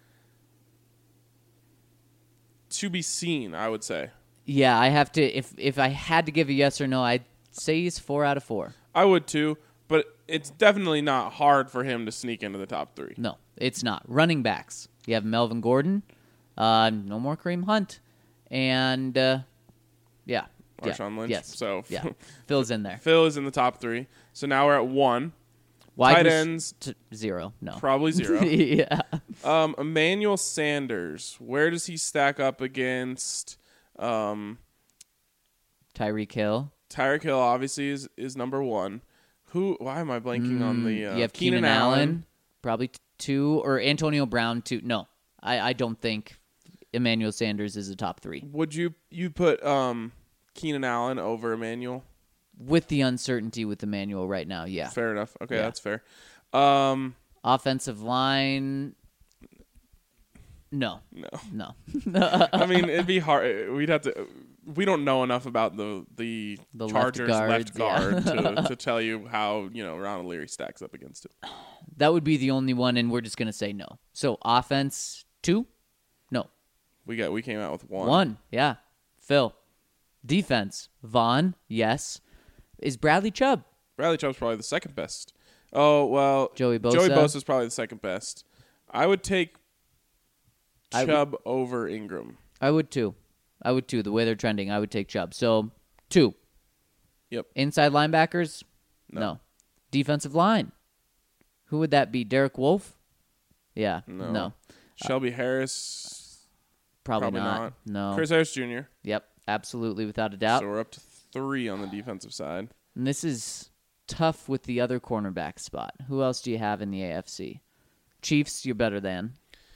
[SPEAKER 4] To be seen, I would say.
[SPEAKER 5] Yeah, I have to. If if I had to give a yes or no, I'd say he's four out of four.
[SPEAKER 4] I would too, but it's definitely not hard for him to sneak into the top three.
[SPEAKER 5] No, it's not. Running backs. You have Melvin Gordon. Uh, no more Kareem Hunt. And, uh, yeah.
[SPEAKER 4] Marshawn
[SPEAKER 5] yeah.
[SPEAKER 4] Lynch.
[SPEAKER 5] Yes.
[SPEAKER 4] So
[SPEAKER 5] yeah. Phil's in there.
[SPEAKER 4] Phil is in the top three. So now we're at one.
[SPEAKER 5] Wide
[SPEAKER 4] Tight
[SPEAKER 5] res-
[SPEAKER 4] ends.
[SPEAKER 5] T- zero. No.
[SPEAKER 4] Probably zero.
[SPEAKER 5] yeah.
[SPEAKER 4] Um, Emmanuel Sanders. Where does he stack up against um,
[SPEAKER 5] Tyreek Hill.
[SPEAKER 4] Tyreek Hill? Obviously is is number one. Who? Why am I blanking
[SPEAKER 5] Mm,
[SPEAKER 4] on the? Uh,
[SPEAKER 5] you have Keenan, Keenan Allen. Allen. Probably t- two. Or Antonio Brown, two. No. I, I don't think Emmanuel Sanders is a top three.
[SPEAKER 4] Would you you put um, Keenan Allen over Emmanuel?
[SPEAKER 5] With the uncertainty with Emmanuel right now, yeah.
[SPEAKER 4] Fair enough. Okay,
[SPEAKER 5] yeah.
[SPEAKER 4] that's fair. Um,
[SPEAKER 5] Offensive line, no.
[SPEAKER 4] No.
[SPEAKER 5] No.
[SPEAKER 4] I mean, it'd be hard. We'd have to. We don't know enough about the the,
[SPEAKER 5] the
[SPEAKER 4] Chargers
[SPEAKER 5] left,
[SPEAKER 4] left guard
[SPEAKER 5] yeah.
[SPEAKER 4] to, to tell you how, you know, Ronald Leary stacks up against it.
[SPEAKER 5] That would be the only one, and we're just going to say no. So offense, two? No.
[SPEAKER 4] We got. We came out with one.
[SPEAKER 5] One, yeah. Phil. Defense, Vaughn, yes. Is Bradley Chubb?
[SPEAKER 4] Bradley Chubb's probably the second best. Oh, well.
[SPEAKER 5] Joey Bosa.
[SPEAKER 4] Joey Bosa's probably the second best. I would take
[SPEAKER 5] I
[SPEAKER 4] Chubb
[SPEAKER 5] would,
[SPEAKER 4] over Ingram.
[SPEAKER 5] I would too. I would too. The way they're trending, I would take Chubb. So, two.
[SPEAKER 4] Yep.
[SPEAKER 5] Inside linebackers?
[SPEAKER 4] No.
[SPEAKER 5] no. Defensive line? Who would that be? Derek Wolfe? Yeah.
[SPEAKER 4] No.
[SPEAKER 5] No.
[SPEAKER 4] Shelby uh, Harris?
[SPEAKER 5] Probably,
[SPEAKER 4] probably
[SPEAKER 5] not.
[SPEAKER 4] not.
[SPEAKER 5] No.
[SPEAKER 4] Chris Harris Junior?
[SPEAKER 5] Yep. Absolutely, without a doubt.
[SPEAKER 4] So we're up to three on the defensive side.
[SPEAKER 5] And this is tough with the other cornerback spot. Who else do you have in the A F C? Chiefs, you're better than.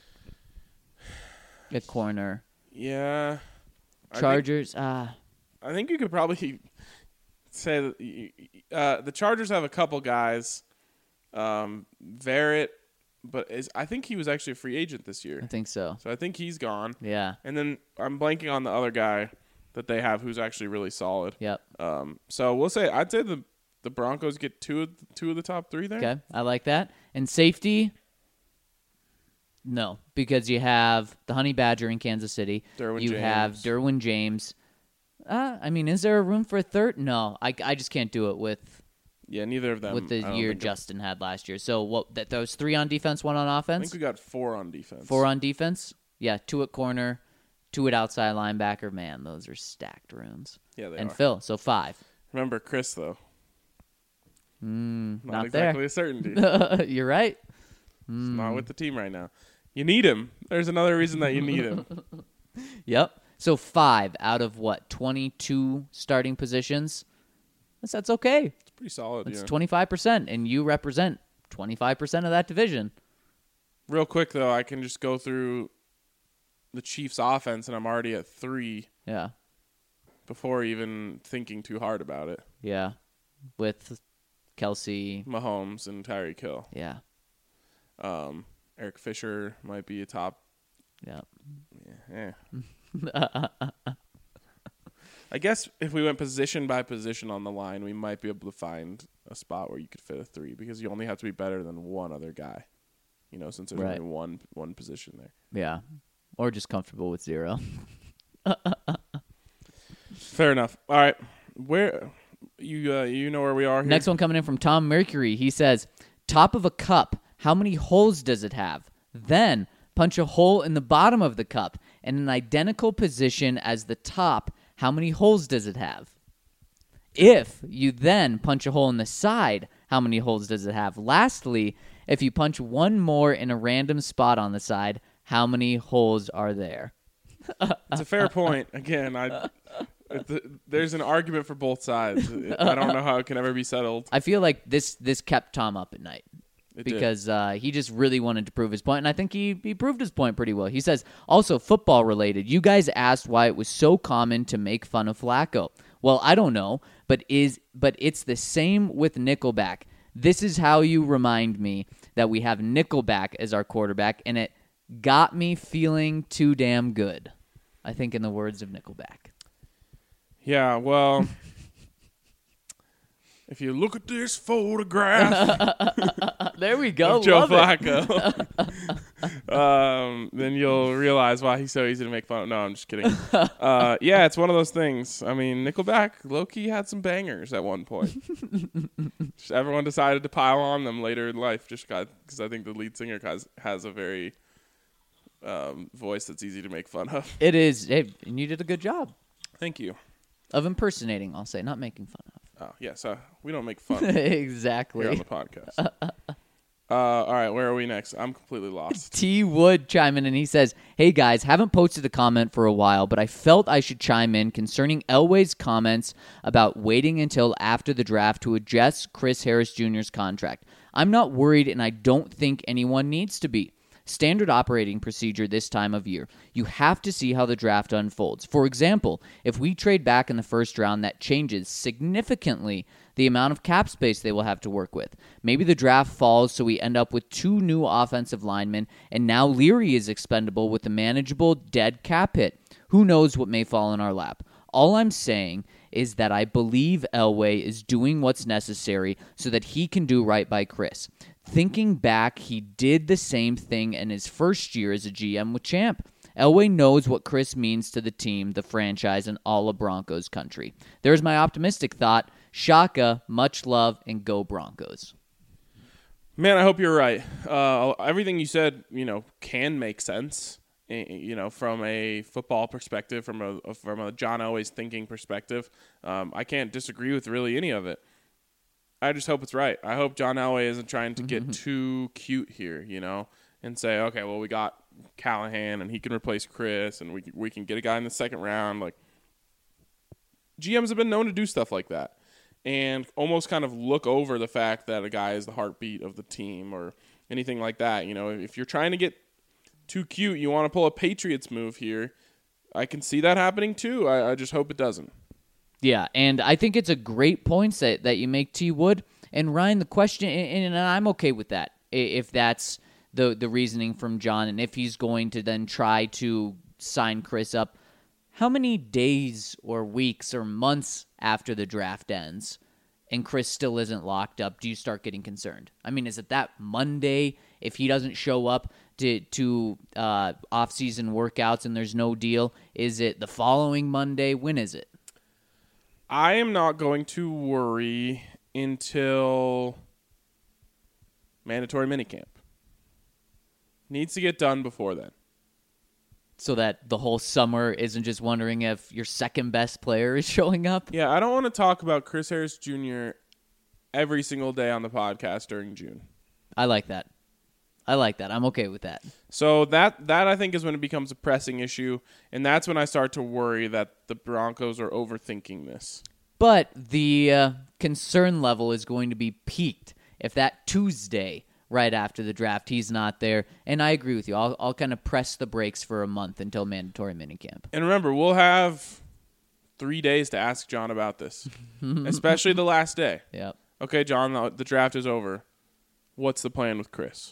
[SPEAKER 5] At corner.
[SPEAKER 4] Yeah.
[SPEAKER 5] Chargers, ah.
[SPEAKER 4] I, I think you could probably say that uh, the Chargers have a couple guys. Um, Verrett, but is, I think he was actually a free agent this year.
[SPEAKER 5] I think so.
[SPEAKER 4] So I think he's gone.
[SPEAKER 5] Yeah.
[SPEAKER 4] And then I'm blanking on the other guy that they have who's actually really solid.
[SPEAKER 5] Yep.
[SPEAKER 4] Um, so we'll say I'd say the the Broncos get two of the, two of the top three there.
[SPEAKER 5] Okay, I like that. And safety, no, because you have the Honey Badger in Kansas City.
[SPEAKER 4] Derwin
[SPEAKER 5] you
[SPEAKER 4] James.
[SPEAKER 5] have Derwin James. Uh, I mean, is there a room for a third? No, I, I just can't do it with
[SPEAKER 4] Yeah, neither of them.
[SPEAKER 5] with the
[SPEAKER 4] I don't
[SPEAKER 5] year
[SPEAKER 4] think
[SPEAKER 5] Justin had last year. So what? That those three on defense, one on
[SPEAKER 4] I
[SPEAKER 5] offense.
[SPEAKER 4] think we got four on defense.
[SPEAKER 5] Four on defense. Yeah, two at corner, two at outside linebacker. Man, those are stacked rooms.
[SPEAKER 4] Yeah, they
[SPEAKER 5] and
[SPEAKER 4] are.
[SPEAKER 5] Phil, so five.
[SPEAKER 4] Remember Chris though.
[SPEAKER 5] Mm,
[SPEAKER 4] Not,
[SPEAKER 5] not
[SPEAKER 4] exactly
[SPEAKER 5] there.
[SPEAKER 4] a certainty.
[SPEAKER 5] You're right.
[SPEAKER 4] He's not with the team right now. You need him. There's another reason that you need him.
[SPEAKER 5] Yep. So five out of what, twenty-two starting positions? That's, that's okay.
[SPEAKER 4] It's pretty solid.
[SPEAKER 5] That's
[SPEAKER 4] yeah.
[SPEAKER 5] twenty-five percent, and you represent twenty-five percent of that division.
[SPEAKER 4] Real quick, though, I can just go through the Chiefs' offense, and I'm already at three
[SPEAKER 5] Yeah.
[SPEAKER 4] before even thinking too hard about it.
[SPEAKER 5] Yeah. With Kelsey.
[SPEAKER 4] Mahomes and Tyreek Hill.
[SPEAKER 5] Yeah.
[SPEAKER 4] Um, Eric Fisher might be a top.
[SPEAKER 5] Yeah.
[SPEAKER 4] Yeah. eh. I guess if we went position by position on the line, we might be able to find a spot where you could fit a three because you only have to be better than one other guy. You know, since there's
[SPEAKER 5] Right.
[SPEAKER 4] only one one position there.
[SPEAKER 5] Yeah. Or just comfortable with zero.
[SPEAKER 4] Fair enough. All right, where you uh, you know where we are here?
[SPEAKER 5] Next one coming in from Tom Mercury. He says, top of a cup, how many holes does it have? Then punch a hole in the bottom of the cup in an identical position as the top. How many holes does it have? If you then punch a hole in the side, how many holes does it have? Lastly, if you punch one more in a random spot on the side, how many holes are there?
[SPEAKER 4] It's a fair point. Again, I there's an argument for both sides. I don't know how it can ever be settled.
[SPEAKER 5] I feel like this this kept Tom up at night.
[SPEAKER 4] It did.
[SPEAKER 5] Because uh, he just really wanted to prove his point, and I think he, he proved his point pretty well. He says, also football related, you guys asked why it was so common to make fun of Flacco. Well, I don't know, but is but it's the same with Nickelback. This is how you remind me that we have Nickelback as our quarterback, and it got me feeling too damn good. I think in the words of Nickelback.
[SPEAKER 4] Yeah, well, if you look at this photograph
[SPEAKER 5] There we go.
[SPEAKER 4] of Joe
[SPEAKER 5] Love it.
[SPEAKER 4] Flacco, um, then you'll realize why he's so easy to make fun of. No, I'm just kidding. Uh, yeah, it's one of those things. I mean, Nickelback, low-key had some bangers at one point. Just everyone decided to pile on them later in life just because I think the lead singer has, has a very um, voice that's easy to make fun of.
[SPEAKER 5] It is. Hey, and you did a good job
[SPEAKER 4] Thank you.
[SPEAKER 5] of impersonating, I'll say, not making fun of.
[SPEAKER 4] Oh, yes, uh, we don't make fun here
[SPEAKER 5] Exactly.
[SPEAKER 4] on the podcast. Uh, all right, where are we next? I'm completely lost.
[SPEAKER 5] T. Wood chime in and he says, hey guys, haven't posted a comment for a while, but I felt I should chime in concerning Elway's comments about waiting until after the draft to adjust Chris Harris Junior's contract. I'm not worried, and I don't think anyone needs to be. Standard operating procedure this time of year. You have to see how the draft unfolds. For example, if we trade back in the first round, that changes significantly the amount of cap space they will have to work with. Maybe the draft falls, so we end up with two new offensive linemen, and now Leary is expendable with a manageable dead cap hit. Who knows what may fall in our lap? All I'm saying is that I believe Elway is doing what's necessary so that he can do right by Chris. Thinking back, he did the same thing in his first year as a G M with Champ. Elway knows what Chris means to the team, the franchise, and all of Broncos country. There's my optimistic thought. Shaka, much love, and go Broncos.
[SPEAKER 4] Man, I hope you're right. Uh, everything you said, you know, can make sense. You know, from a football perspective, from a from a John Elway's thinking perspective, um, I can't disagree with really any of it. I just hope it's right. I hope John Elway isn't trying to get too cute here, you know, and say, okay, well, we got Callahan and he can replace Chris, and we we can get a guy in the second round. Like, G Ms have been known to do stuff like that, and almost kind of look over the fact that a guy is the heartbeat of the team or anything like that. You know, if you're trying to get too cute, you want to pull a Patriots move here, I can see that happening too. I, I just hope it doesn't.
[SPEAKER 5] Yeah, and I think it's a great point that, that you make, T. Wood. And Ryan, the question, and, and I'm okay with that, if that's the, the reasoning from John, and if he's going to then try to sign Chris up, how many days or weeks or months after the draft ends and Chris still isn't locked up, do you start getting concerned? I mean, is it that Monday if he doesn't show up to, to uh, off-season workouts and there's no deal? Is it the following Monday? When is it?
[SPEAKER 4] I am not going to worry until mandatory minicamp. Needs to get done before then.
[SPEAKER 5] So that the whole summer isn't just wondering if your second best player is showing up?
[SPEAKER 4] Yeah, I don't want to talk about Chris Harris Junior every single day on the podcast during June.
[SPEAKER 5] I like that. I like that. I'm okay with that.
[SPEAKER 4] So that that I think is when it becomes a pressing issue, and that's when I start to worry that the Broncos are overthinking this.
[SPEAKER 5] But the uh, concern level is going to be peaked if that Tuesday right after the draft he's not there. And I agree with you. I'll, I'll kind of press the brakes for a month until mandatory minicamp.
[SPEAKER 4] And remember, we'll have three days to ask John about this, especially the last day.
[SPEAKER 5] Yep.
[SPEAKER 4] Okay, John, the, the draft is over. What's the plan with Chris?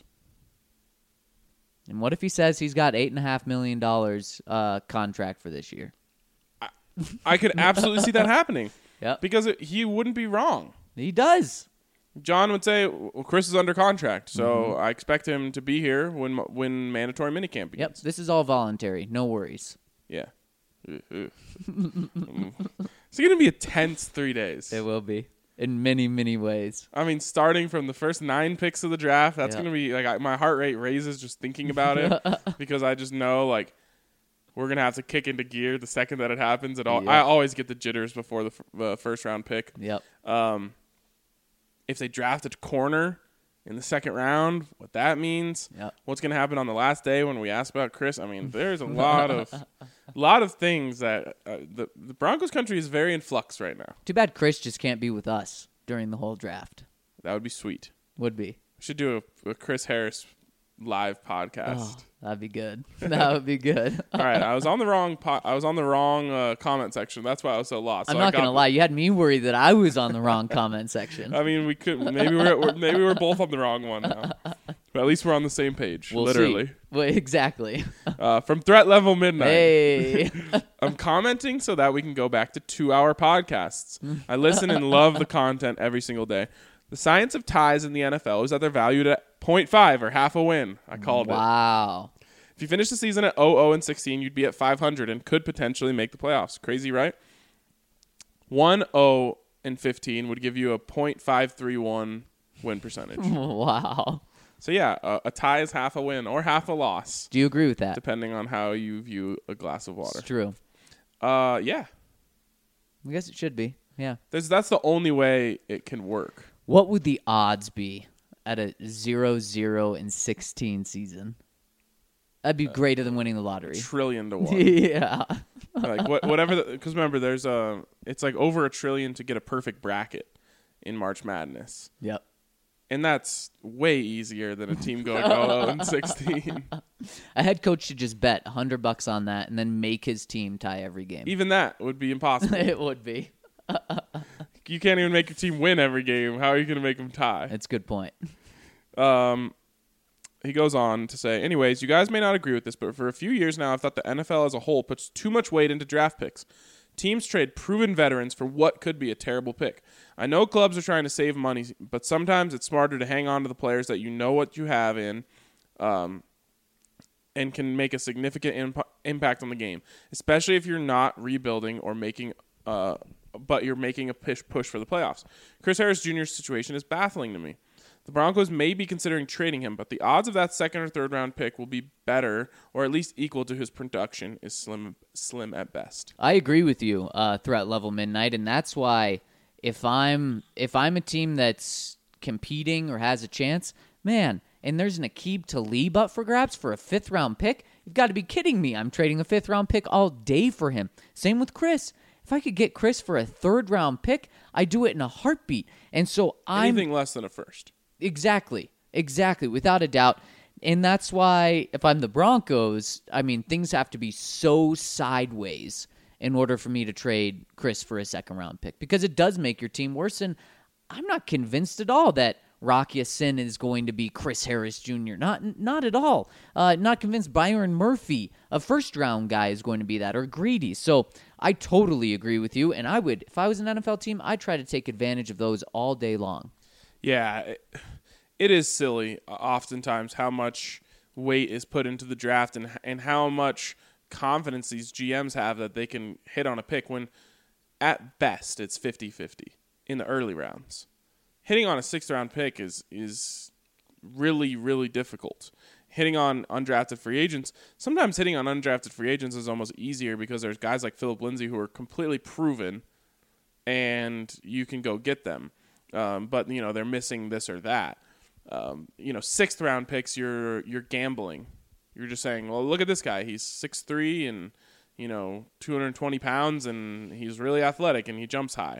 [SPEAKER 5] And what if he says he's got eight and a half million dollars uh, contract for this year?
[SPEAKER 4] I, I could absolutely see that happening.
[SPEAKER 5] Yep.
[SPEAKER 4] Because it, he wouldn't be wrong.
[SPEAKER 5] He does.
[SPEAKER 4] John would say, well, Chris is under contract, so mm-hmm. I expect him to be here when when mandatory minicamp begins.
[SPEAKER 5] Yep, this is all voluntary. No worries.
[SPEAKER 4] Yeah. It's going to be a tense three days.
[SPEAKER 5] It will be. In many, many ways.
[SPEAKER 4] I mean, starting from the first nine picks of the draft, that's
[SPEAKER 5] yep.
[SPEAKER 4] going to be, like, I, my heart rate raises just thinking about it because I just know, like, we're going to have to kick into gear the second that it happens. It all,
[SPEAKER 5] yep.
[SPEAKER 4] I always get the jitters before the f- uh, first round pick.
[SPEAKER 5] Yep.
[SPEAKER 4] Um, if they draft a corner in the second round, what that means,
[SPEAKER 5] yep.
[SPEAKER 4] what's going to happen on the last day when we ask about Chris. I mean, there's a lot of lot of things that uh, the, the Broncos country is very in flux right now.
[SPEAKER 5] Too bad Chris just can't be with us during the whole draft.
[SPEAKER 4] That would be sweet.
[SPEAKER 5] Would be.
[SPEAKER 4] We should do a, a Chris Harris live podcast.
[SPEAKER 5] Oh, that'd be good. That would be good.
[SPEAKER 4] All right, I was on the wrong po- I was on the wrong uh, comment section. That's why I was so lost.
[SPEAKER 5] I'm
[SPEAKER 4] so
[SPEAKER 5] not
[SPEAKER 4] I
[SPEAKER 5] gonna lie. You had me worried that I was on the wrong comment section.
[SPEAKER 4] I mean, we could maybe we're, we're maybe we're both on the wrong one now. But at least we're on the same page.
[SPEAKER 5] We'll
[SPEAKER 4] literally.
[SPEAKER 5] See. Well, exactly.
[SPEAKER 4] Uh, from Threat Level Midnight.
[SPEAKER 5] Hey.
[SPEAKER 4] I'm commenting so that we can go back to two-hour podcasts. I listen and love the content every single day. The science of ties in the N F L is that they're valued at point five or half a win. I called
[SPEAKER 5] wow.
[SPEAKER 4] it.
[SPEAKER 5] Wow.
[SPEAKER 4] If you finish the season at oh oh and sixteen, you'd be at five hundred and could potentially make the playoffs. Crazy, right? one oh and fifteen would give you a point five three one win percentage.
[SPEAKER 5] Wow.
[SPEAKER 4] So, yeah, a, a tie is half a win or half a loss.
[SPEAKER 5] Do you agree with that?
[SPEAKER 4] Depending on how you view a glass of water.
[SPEAKER 5] It's true.
[SPEAKER 4] Uh, yeah.
[SPEAKER 5] I guess it should be. Yeah.
[SPEAKER 4] There's, that's the only way it can work.
[SPEAKER 5] What would the odds be at a zero zero and sixteen season? That'd be greater than winning the lottery.
[SPEAKER 4] Trillion to one.
[SPEAKER 5] Yeah.
[SPEAKER 4] Like what, whatever. Because remember, there's a. It's like over a trillion to get a perfect bracket in March Madness.
[SPEAKER 5] Yep.
[SPEAKER 4] And that's way easier than a team going oh oh and sixteen.
[SPEAKER 5] A head coach should just bet a hundred bucks on that and then make his team tie every game.
[SPEAKER 4] Even that would be impossible.
[SPEAKER 5] It would be.
[SPEAKER 4] You can't even make your team win every game. How are you going to make them tie?
[SPEAKER 5] That's a good point.
[SPEAKER 4] Um. He goes on to say, anyways, you guys may not agree with this, but for a few years now, I've thought the N F L as a whole puts too much weight into draft picks. Teams trade proven veterans for what could be a terrible pick. I know clubs are trying to save money, but sometimes it's smarter to hang on to the players that you know what you have in um, and can make a significant imp- impact on the game, especially if you're not rebuilding or making uh, but you're making a push, push for the playoffs. Chris Harris Junior's situation is baffling to me. The Broncos may be considering trading him, but the odds of that second or third round pick will be better or at least equal to his production is slim slim at best.
[SPEAKER 5] I agree with you, uh, Threat Level Midnight, and that's why if I'm if I'm a team that's competing or has a chance, man, and there's an Aqib Talib up for grabs for a fifth round pick, you've got to be kidding me. I'm trading a fifth round pick all day for him. Same with Chris. If I could get Chris for a third round pick, I do it in a heartbeat. And so I'm
[SPEAKER 4] anything less than a first.
[SPEAKER 5] Exactly. Exactly. Without a doubt. And that's why if I'm the Broncos, I mean, things have to be so sideways in order for me to trade Chris for a second round pick because it does make your team worse. And I'm not convinced at all that Rocky Sin is going to be Chris Harris Junior Not not at all. Uh, not convinced Byron Murphy, a first round guy, is going to be that or Greedy. So I totally agree with you. And I would, if I was an N F L team, I'd try to take advantage of those all day long.
[SPEAKER 4] Yeah, it, it is silly oftentimes how much weight is put into the draft and and how much confidence these G Ms have that they can hit on a pick when at best it's fifty-fifty in the early rounds. Hitting on a sixth round pick is is really, really difficult. Hitting on undrafted free agents, sometimes hitting on undrafted free agents is almost easier because there's guys like Philip Lindsay who are completely proven and you can go get them. Um, but, you know, they're missing this or that. Um, you know, sixth round picks, you're you're gambling. You're just saying, well, look at this guy. He's six three and, you know, two hundred twenty pounds, and he's really athletic, and he jumps high.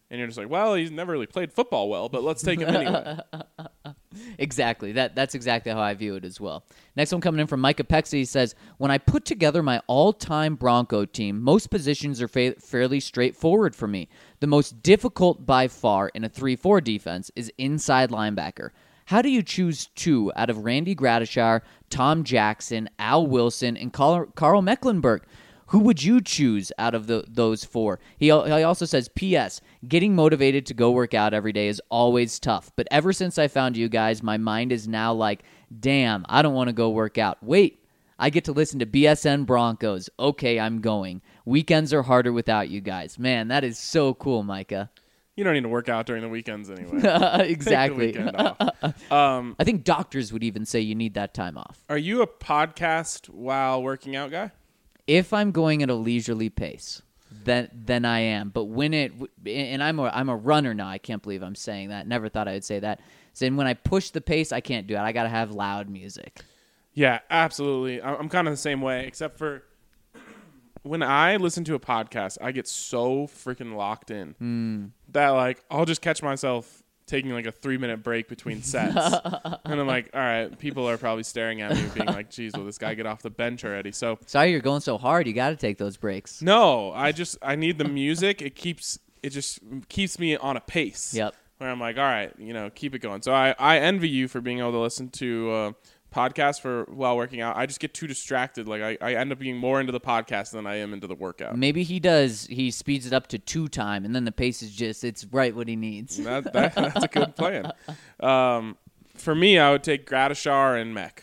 [SPEAKER 4] And you're just like, well, he's never really played football well, but let's take him anyway.
[SPEAKER 5] Exactly. That that's exactly how I view it as well. Next one coming in from Micah Pexi. He says, when I put together my all-time Bronco team, most positions are fa- fairly straightforward for me. The most difficult by far in a three four defense is inside linebacker. How do you choose two out of Randy Gradishar, Tom Jackson, Al Wilson, and Carl, Carl Mecklenburg? Who would you choose out of the, those four? He, he also says, P S. Getting motivated to go work out every day is always tough. But ever since I found you guys, my mind is now like, damn, I don't want to go work out. Wait, I get to listen to B S N Broncos. Okay, I'm going. Weekends are harder without you guys. Man, that is so cool, Micah.
[SPEAKER 4] You don't need to work out during the weekends anyway.
[SPEAKER 5] Exactly.
[SPEAKER 4] Take the weekend off. Um,
[SPEAKER 5] I think doctors would even say you need that time off.
[SPEAKER 4] are you a podcast while working out guy?
[SPEAKER 5] If I'm going at a leisurely pace, then then I am. But when it and I'm a I'm a runner now. I can't believe I'm saying that. Never thought I would say that. So when I push the pace, I can't do it. I got to have loud music.
[SPEAKER 4] Yeah, absolutely. I- I'm kind of the same way, except for when I listen to a podcast, I get so freaking locked in
[SPEAKER 5] Mm.
[SPEAKER 4] that like I'll just catch myself taking like a three minute break between sets. And I'm like, all right, people are probably staring at me being like, geez, will this guy get off the bench already? So
[SPEAKER 5] Sorry, you're going so hard. You got to take those breaks.
[SPEAKER 4] no, I just, I need the music. It keeps, it just keeps me on a pace.
[SPEAKER 5] Yep.
[SPEAKER 4] Where I'm like, all right, you know, keep it going. So I, I envy you for being able to listen to uh, podcasts for while working out. I just get too distracted. Like I, I end up being more into the podcast than I am into the workout.
[SPEAKER 5] Maybe he does. He speeds it up to two time, and then the pace is just, it's right what he needs.
[SPEAKER 4] That, that, that's a good plan. Um, for me, I would take Gradishar and Mech.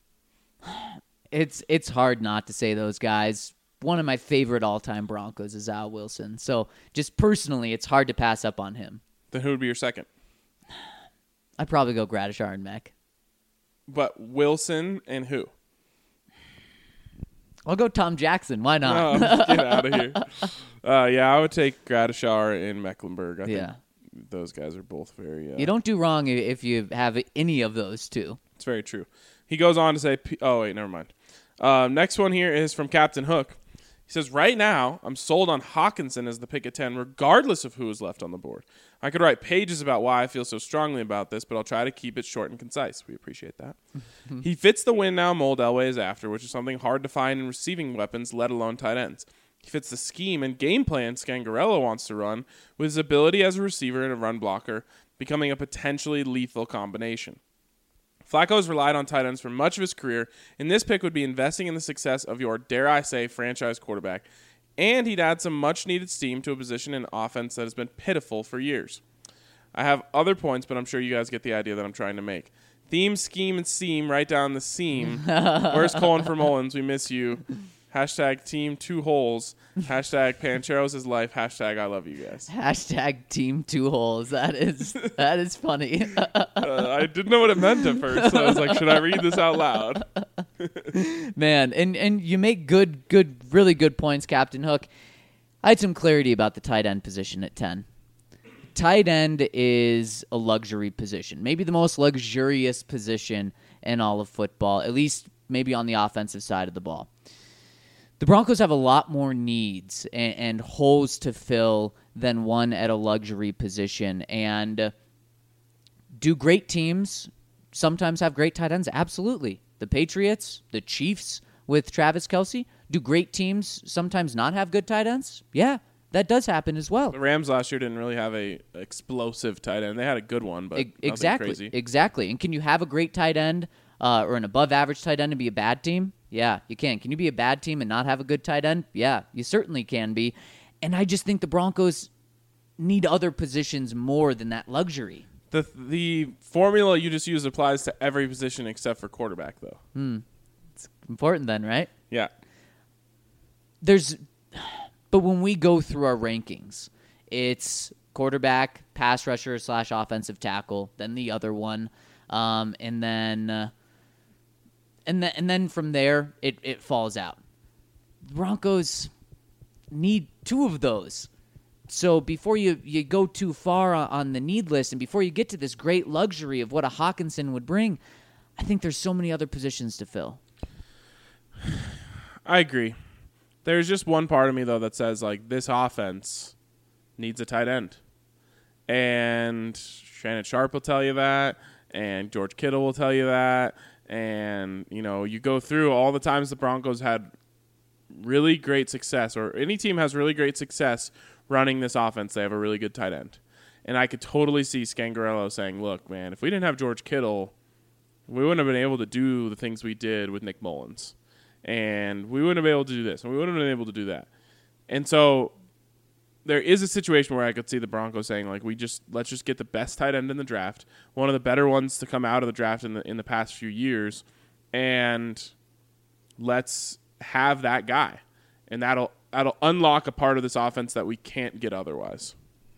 [SPEAKER 5] It's it's hard not to say those guys. One of my favorite all-time Broncos is Al Wilson. So just personally, it's hard to pass up on him.
[SPEAKER 4] Then who would be your second?
[SPEAKER 5] I'd probably go Gradishar and Mech.
[SPEAKER 4] But Wilson and who?
[SPEAKER 5] I'll go Tom Jackson. Why not?
[SPEAKER 4] No, get out of here. Uh, yeah, I would take Gradishar and Mecklenburg. I
[SPEAKER 5] Yeah.
[SPEAKER 4] think those guys are both very... Uh,
[SPEAKER 5] You don't do wrong i- if you have any of those two.
[SPEAKER 4] It's very true. He goes on to say... P- oh, wait, never mind. Uh, next one here is from Captain Hook. He says, right now, I'm sold on Hawkinson as the pick at ten, regardless of who is left on the board. I could write pages about why I feel so strongly about this, but I'll try to keep it short and concise. We appreciate that. He fits the win now mold Elway is after, which is something hard to find in receiving weapons, let alone tight ends. He fits the scheme and game plan Scangarello wants to run, with his ability as a receiver and a run blocker becoming a potentially lethal combination. Flacco has relied on tight ends for much of his career, and this pick would be investing in the success of your, dare I say, franchise quarterback, and he'd add some much-needed steam to a position in offense that has been pitiful for years. I have other points, but I'm sure you guys get the idea that I'm trying to make. Theme, scheme, and seam right down the seam. Where's Colin for Mullins? We miss you. Hashtag team two holes. Hashtag Pancheros is life. Hashtag I love you guys.
[SPEAKER 5] Hashtag team two holes. That is that is funny.
[SPEAKER 4] uh, I didn't know what it meant at first, so I was like, should I read this out loud?
[SPEAKER 5] Man, and, and you make good, good, really good points, Captain Hook. I had some clarity about the tight end position at ten. Tight end is a luxury position. Maybe the most luxurious position in all of football, at least maybe on the offensive side of the ball. The Broncos have a lot more needs and, and holes to fill than one at a luxury position. And uh, do great teams sometimes have great tight ends? Absolutely. The Patriots, the Chiefs with Travis Kelce, do great teams sometimes not have good tight ends? Yeah, that does happen as well.
[SPEAKER 4] The Rams last year didn't really have a explosive tight end. They had a good one, but
[SPEAKER 5] E-
[SPEAKER 4] nothing
[SPEAKER 5] exactly,
[SPEAKER 4] crazy.
[SPEAKER 5] exactly. And can you have a great tight end uh, or an above-average tight end and be a bad team? Yeah, you can. Can you be a bad team and not have a good tight end? Yeah, you certainly can be. And I just think the Broncos need other positions more than that luxury.
[SPEAKER 4] The the formula you just used applies to every position except for quarterback, though.
[SPEAKER 5] It's important then, right?
[SPEAKER 4] Yeah.
[SPEAKER 5] There's, but when we go through our rankings, it's quarterback, pass rusher slash offensive tackle, then the other one, um, and then, uh, and then and then from there it it falls out. The Broncos need two of those. So before you, you go too far on the need list and before you get to this great luxury of what a Hawkinson would bring, I think there's so many other positions to fill.
[SPEAKER 4] I agree. There's just one part of me, though, that says, like, this offense needs a tight end. And Shannon Sharp will tell you that, and George Kittle will tell you that. And, you know, you go through all the times the Broncos had really great success, or any team has really great success running this offense, they have a really good tight end. And I could totally see Scangarello saying, look, man, if we didn't have George Kittle, we wouldn't have been able to do the things we did with Nick Mullins. And we wouldn't have been able to do this, and we wouldn't have been able to do that. And so there is a situation where I could see the Broncos saying, like, we just let's just get the best tight end in the draft, one of the better ones to come out of the draft in the in the past few years, and let's have that guy. And that'll that'll unlock a part of this offense that we can't get otherwise.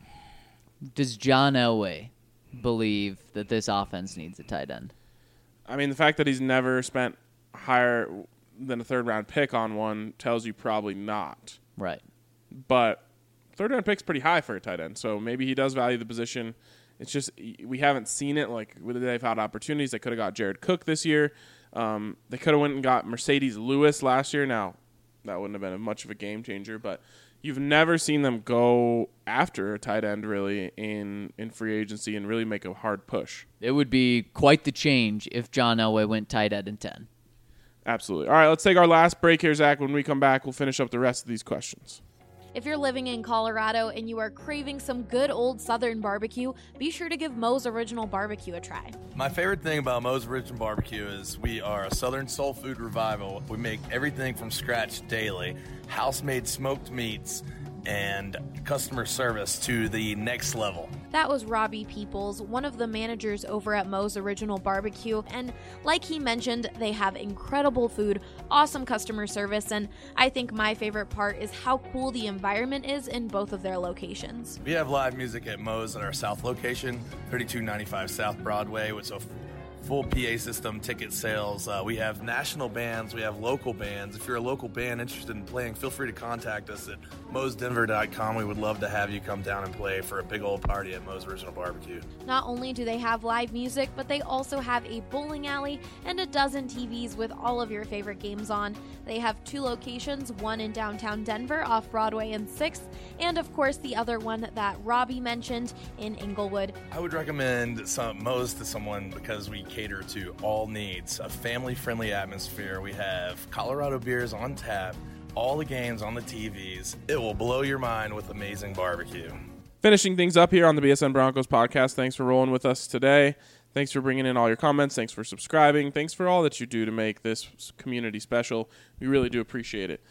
[SPEAKER 5] Does John Elway believe that this offense needs a tight end?
[SPEAKER 4] I mean, the fact that he's never spent higher than a third-round pick on one tells you probably not.
[SPEAKER 5] Right.
[SPEAKER 4] But third-round pick's pretty high for a tight end, so maybe he does value the position. It's just we haven't seen it. Like, they've had opportunities. They could have got Jared Cook this year. Um, they could have went and got Mercedes Lewis last year. Now, that wouldn't have been much of a game changer, but you've never seen them go after a tight end really in, in free agency and really make a hard push.
[SPEAKER 5] It would be quite the change if John Elway went tight end in ten.
[SPEAKER 4] Absolutely. All right, let's take our last break here, Zach. When we come back, we'll finish up the rest of these questions.
[SPEAKER 1] If you're living in Colorado and you are craving some good old Southern barbecue, be sure to give Moe's Original Barbecue a try.
[SPEAKER 7] My favorite thing about Moe's Original Barbecue is we are a Southern soul food revival. We make everything from scratch daily, house-made smoked meats, and customer service to the next level.
[SPEAKER 1] That was Robbie Peoples, one of the managers over at Moe's Original Barbecue, and like he mentioned, they have incredible food, awesome customer service, and I think my favorite part is how cool the environment is in both of their locations.
[SPEAKER 7] We have live music at Moe's at our South location, thirty-two ninety-five South Broadway, with a full P A system, ticket sales. Uh, we have national bands. We have local bands. If you're a local band interested in playing, feel free to contact us at moes denver dot com. We would love to have you come down and play for a big old party at Moe's Original Barbecue.
[SPEAKER 1] Not only do they have live music, but they also have a bowling alley and a dozen T Vs with all of your favorite games on. They have two locations, one in downtown Denver off Broadway and sixth, and of course the other one that Robbie mentioned in Inglewood.
[SPEAKER 7] I would recommend some Moe's to someone because we cater to all needs. A family-friendly atmosphere. We have Colorado beers on tap, all the games on the T Vs. It will blow your mind with amazing barbecue.
[SPEAKER 4] Finishing things up here on the B S N Broncos podcast. Thanks for rolling with us today. Thanks for bringing in all your comments. Thanks for subscribing. Thanks for all that you do to make this community special. We really do appreciate it.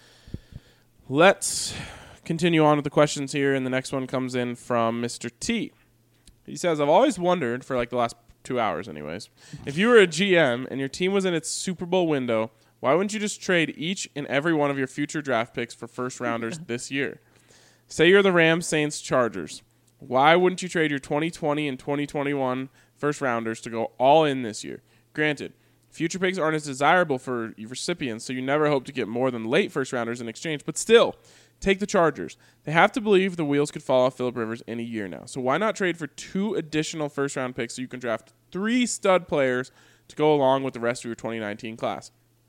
[SPEAKER 4] Let's continue on with the questions here, and the next one comes in from Mister T. He says, I've always wondered, for like the last two hours anyways, if you were a G M and your team was in its Super Bowl window, why wouldn't you just trade each and every one of your future draft picks for first rounders this year? Say you're the Rams, Saints, Chargers. Why wouldn't you trade your twenty twenty and twenty twenty-one first rounders to go all in this year? Granted, future picks aren't as desirable for recipients, so you never hope to get more than late first rounders in exchange, but still, take the Chargers. They have to believe the wheels could fall off Phillip Rivers in a year now. So why not trade for two additional first-round picks so you can draft three stud players to go along with the rest of your twenty nineteen class?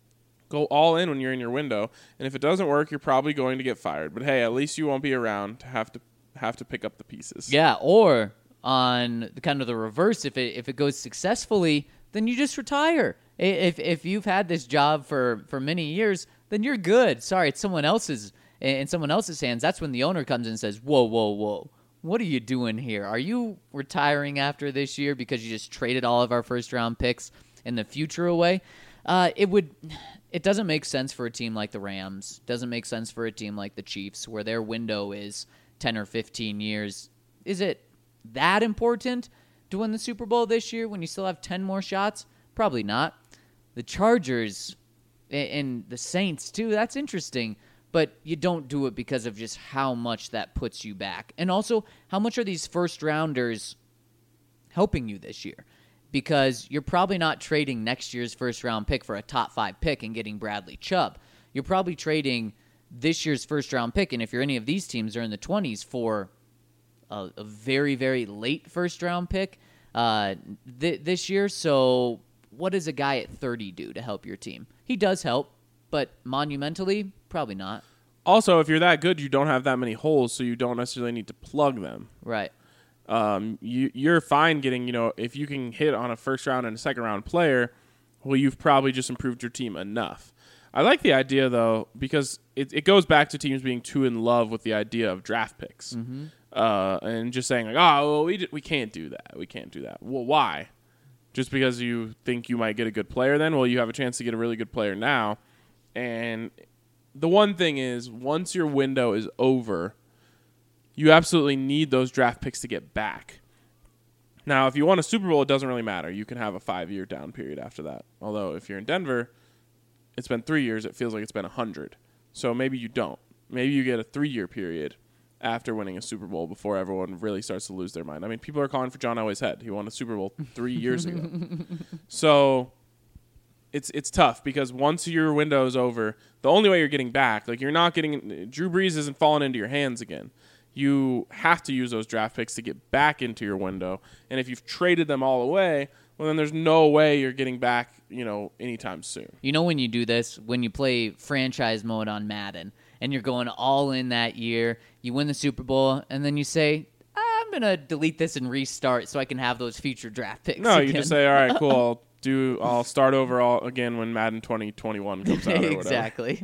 [SPEAKER 4] Go all in when you're in your window, and if it doesn't work, you're probably going to get fired. But hey, at least you won't be around to have to have to pick up the pieces.
[SPEAKER 5] Yeah, or on the kind of the reverse, if it if it goes successfully, then you just retire. If if you've had this job for, for many years, then you're good. Sorry, it's someone else's in someone else's hands. That's when the owner comes in and says, whoa, whoa, whoa. What are you doing here? Are you retiring after this year because you just traded all of our first-round picks in the future away? Uh, it would. It doesn't make sense for a team like the Rams. Doesn't make sense for a team like the Chiefs, where their window is ten or fifteen years. Is it that important to win the Super Bowl this year when you still have ten more shots? Probably not. The Chargers and the Saints, too, that's interesting. But you don't do it because of just how much that puts you back. And also, how much are these first-rounders helping you this year? Because you're probably not trading next year's first-round pick for a top-five pick and getting Bradley Chubb. You're probably trading this year's first-round pick, and if you're any of these teams, are in the twenties, for a, a very, very late first-round pick uh, th- this year. So what does a guy at thirty do to help your team? He does help, but monumentally, probably not.
[SPEAKER 4] Also, if you're that good, you don't have that many holes, so you don't necessarily need to plug them.
[SPEAKER 5] Right.
[SPEAKER 4] Um, you, you're fine getting, you know, if you can hit on a first round and a second round player, well, you've probably just improved your team enough. I like the idea, though, because it, it goes back to teams being too in love with the idea of draft picks. Mm-hmm. Uh, and just saying, like, oh, well, we, d- we can't do that. We can't do that. Well, why? Just because you think you might get a good player then? Well, you have a chance to get a really good player now. And the one thing is, once your window is over, you absolutely need those draft picks to get back. Now, if you want a Super Bowl, it doesn't really matter. You can have a five-year down period after that. Although, if you're in Denver, it's been three years. It feels like it's been a hundred. So maybe you don't. Maybe you get a three-year period after winning a Super Bowl before everyone really starts to lose their mind. I mean, people are calling for John Elway's head. He won a Super Bowl three years ago. So it's it's tough because once your window is over, the only way you're getting back, like you're not getting, Drew Brees isn't falling into your hands again. You have to use those draft picks to get back into your window. And if you've traded them all away, well, then there's no way you're getting back, you know, anytime soon.
[SPEAKER 5] You know when you do this? When you play franchise mode on Madden and you're going all in that year, you win the Super Bowl, and then you say, I'm going to delete this and restart so I can have those future draft picks
[SPEAKER 4] No,
[SPEAKER 5] again.
[SPEAKER 4] you just say, all right, cool, I'll, do, I'll start over all again when Madden twenty twenty-one comes out or whatever.
[SPEAKER 5] Exactly.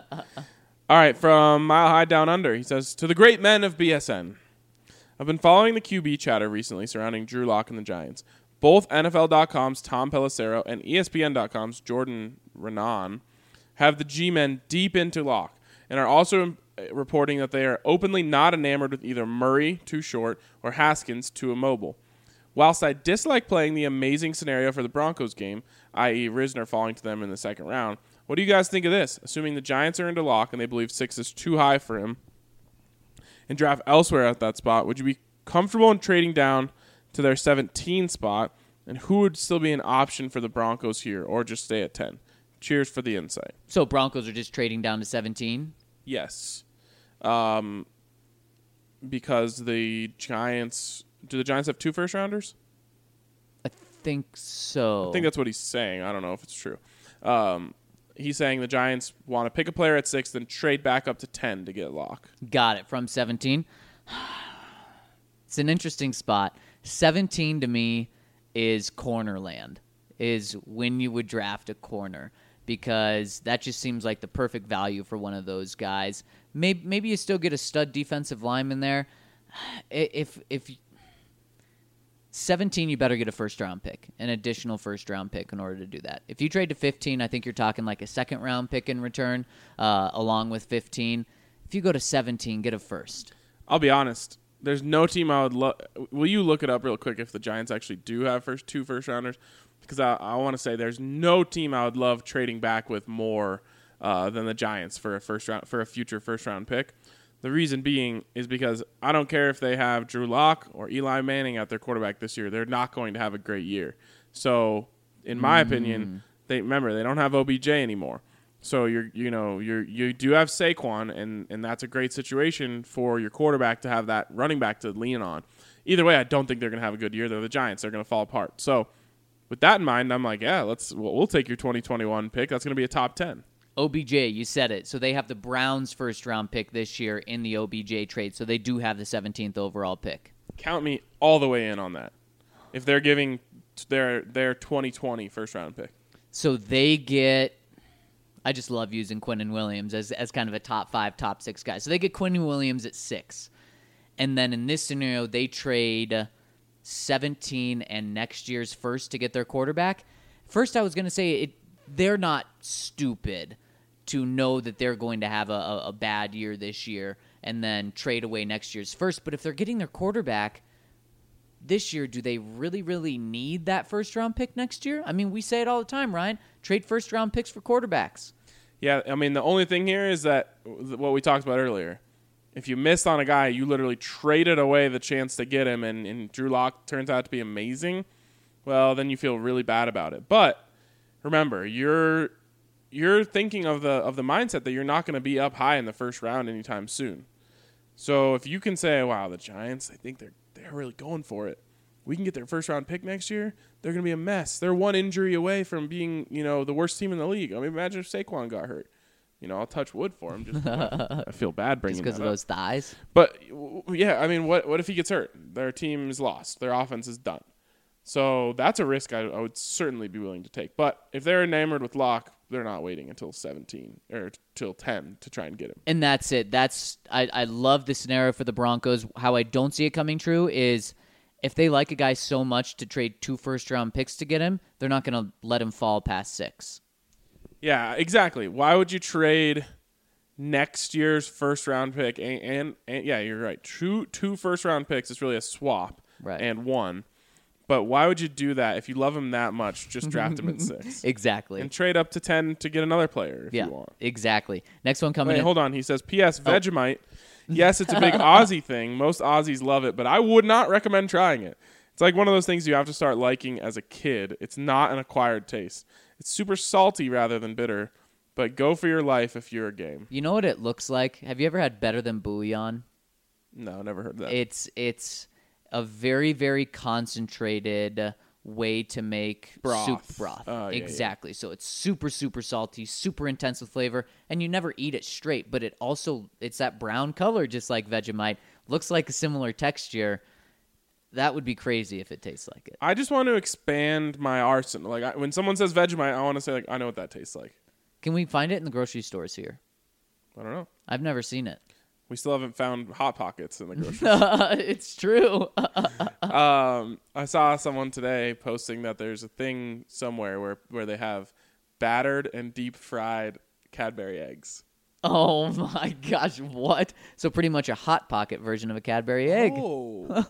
[SPEAKER 4] All right, from Mile High Down Under, he says, to the great men of B S N, I've been following the Q B chatter recently surrounding Drew Lock and the Giants. Both N F L dot com's Tom Pelissero and E S P N dot com's Jordan Renan have the G-men deep into Lock and are also reporting that they are openly not enamored with either Murray, too short, or Haskins, too immobile. Whilst I dislike playing the amazing scenario for the Broncos game, that is. Risner falling to them in the second round, what do you guys think of this? Assuming the Giants are into Lock and they believe six is too high for him and draft elsewhere at that spot, would you be comfortable in trading down to their seventeen spot, and who would still be an option for the Broncos here, or just stay at ten? Cheers for the insight.
[SPEAKER 5] So Broncos are just trading down to seventeen?
[SPEAKER 4] Yes. Um, because the Giants... Do the Giants have two first-rounders?
[SPEAKER 5] I think so.
[SPEAKER 4] I think that's what he's saying. I don't know if it's true. Um, he's saying the Giants want to pick a player at six, then trade back up to ten to get Lock.
[SPEAKER 5] Got it. From seventeen? It's an interesting spot. seventeen to me is corner land, is when you would draft a corner, because that just seems like the perfect value for one of those guys. Maybe, maybe you still get a stud defensive lineman there. If if seventeen, you better get a first-round pick, an additional first-round pick in order to do that. If you trade to fifteen, I think you're talking like a second-round pick in return, uh, along with fifteen. If you go to seventeen, get a first.
[SPEAKER 4] I'll be honest. There's no team I would love. Will you look it up real quick if the Giants actually do have first two first-rounders? Because I, I want to say there's no team I would love trading back with more uh, than the Giants for a first round for a future first-round pick. The reason being is because I don't care if they have Drew Lock or Eli Manning at their quarterback this year. They're not going to have a great year. So, in my mm. opinion, they remember they don't have O B J anymore. So you're you know you you do have Saquon, and and that's a great situation for your quarterback to have that running back to lean on. Either way, I don't think they're going to have a good year. They're the Giants. They're going to fall apart. So, with that in mind, I'm like, yeah, let's we'll, we'll take your twenty twenty-one pick. That's going to be a top ten.
[SPEAKER 5] O B J, you said it. So they have the Browns' first-round pick this year in the O B J trade. So they do have the seventeenth overall pick.
[SPEAKER 4] Count me all the way in on that. If they're giving their their twenty twenty first-round pick.
[SPEAKER 5] So they get... I just love using Quinnen Williams as, as kind of a top five, top six guy. So they get Quinnen Williams at six. And then in this scenario, they trade seventeen and next year's first to get their quarterback. First, I was going to say it. They're not stupid to know that they're going to have a, a, a bad year this year and then trade away next year's first. But if they're getting their quarterback this year, do they really, really need that first-round pick next year? I mean, we say it all the time, Ryan. Trade first-round picks for quarterbacks.
[SPEAKER 4] Yeah, I mean, the only thing here is that what we talked about earlier. If you missed on a guy, you literally traded away the chance to get him, and, and Drew Lock turns out to be amazing, well, then you feel really bad about it. But remember, you're you're thinking of the of the mindset that you're not going to be up high in the first round anytime soon. So if you can say, wow, the Giants, I think they're they're really going for it. We can get their first round pick next year. They're going to be a mess. They're one injury away from being, you know, the worst team in the league. I mean, imagine if Saquon got hurt. You know, I'll touch wood for him. Just I feel bad bringing
[SPEAKER 5] Just because
[SPEAKER 4] that
[SPEAKER 5] of
[SPEAKER 4] up.
[SPEAKER 5] those thighs.
[SPEAKER 4] But w- yeah, I mean, what what if he gets hurt? Their team is lost. Their offense is done. So that's a risk I, I would certainly be willing to take. But if they're enamored with Locke, they're not waiting until seventeen or till ten to try and get him.
[SPEAKER 5] And that's it. That's I, I love the scenario for the Broncos. How I don't see it coming true is if they like a guy so much to trade two first-round picks to get him, they're not going to let him fall past six.
[SPEAKER 4] Yeah, exactly. Why would you trade next year's first-round pick? And, and, and yeah, you're right. Two, two first-round picks is really a swap
[SPEAKER 5] Right.
[SPEAKER 4] and one. But why would you do that if you love him that much? Just draft him at six.
[SPEAKER 5] Exactly.
[SPEAKER 4] And trade up to ten to get another player if
[SPEAKER 5] yeah,
[SPEAKER 4] you want.
[SPEAKER 5] exactly. Next one coming
[SPEAKER 4] Wait,
[SPEAKER 5] in.
[SPEAKER 4] hold on. He says, P S. Vegemite. Yes, it's a big Aussie thing. Most Aussies love it, but I would not recommend trying it. It's like one of those things you have to start liking as a kid. It's not an acquired taste. It's super salty rather than bitter, but go for your life if you're a game.
[SPEAKER 5] You know what it looks like? Have you ever had Better Than Bouillon?
[SPEAKER 4] No, never heard that.
[SPEAKER 5] It's it's a very, very concentrated way to make
[SPEAKER 4] Broth.
[SPEAKER 5] soup broth.
[SPEAKER 4] Oh, yeah,
[SPEAKER 5] exactly. So it's super, super salty, super intense with flavor, and you never eat it straight, but it also, it's that brown color just like Vegemite. Looks like a similar texture. That would be crazy if it tastes like it.
[SPEAKER 4] I just want to expand my arsenal. Like I, when someone says Vegemite, I want to say like I know what that tastes like.
[SPEAKER 5] Can we find it in the grocery stores here?
[SPEAKER 4] I don't know.
[SPEAKER 5] I've never seen it.
[SPEAKER 4] We still haven't found Hot Pockets in the grocery store.
[SPEAKER 5] It's true.
[SPEAKER 4] um, I saw someone today posting that there's a thing somewhere where, where they have battered and deep fried Cadbury eggs.
[SPEAKER 5] Oh my gosh, what? So pretty much a Hot Pocket version of a Cadbury egg.
[SPEAKER 4] Oh.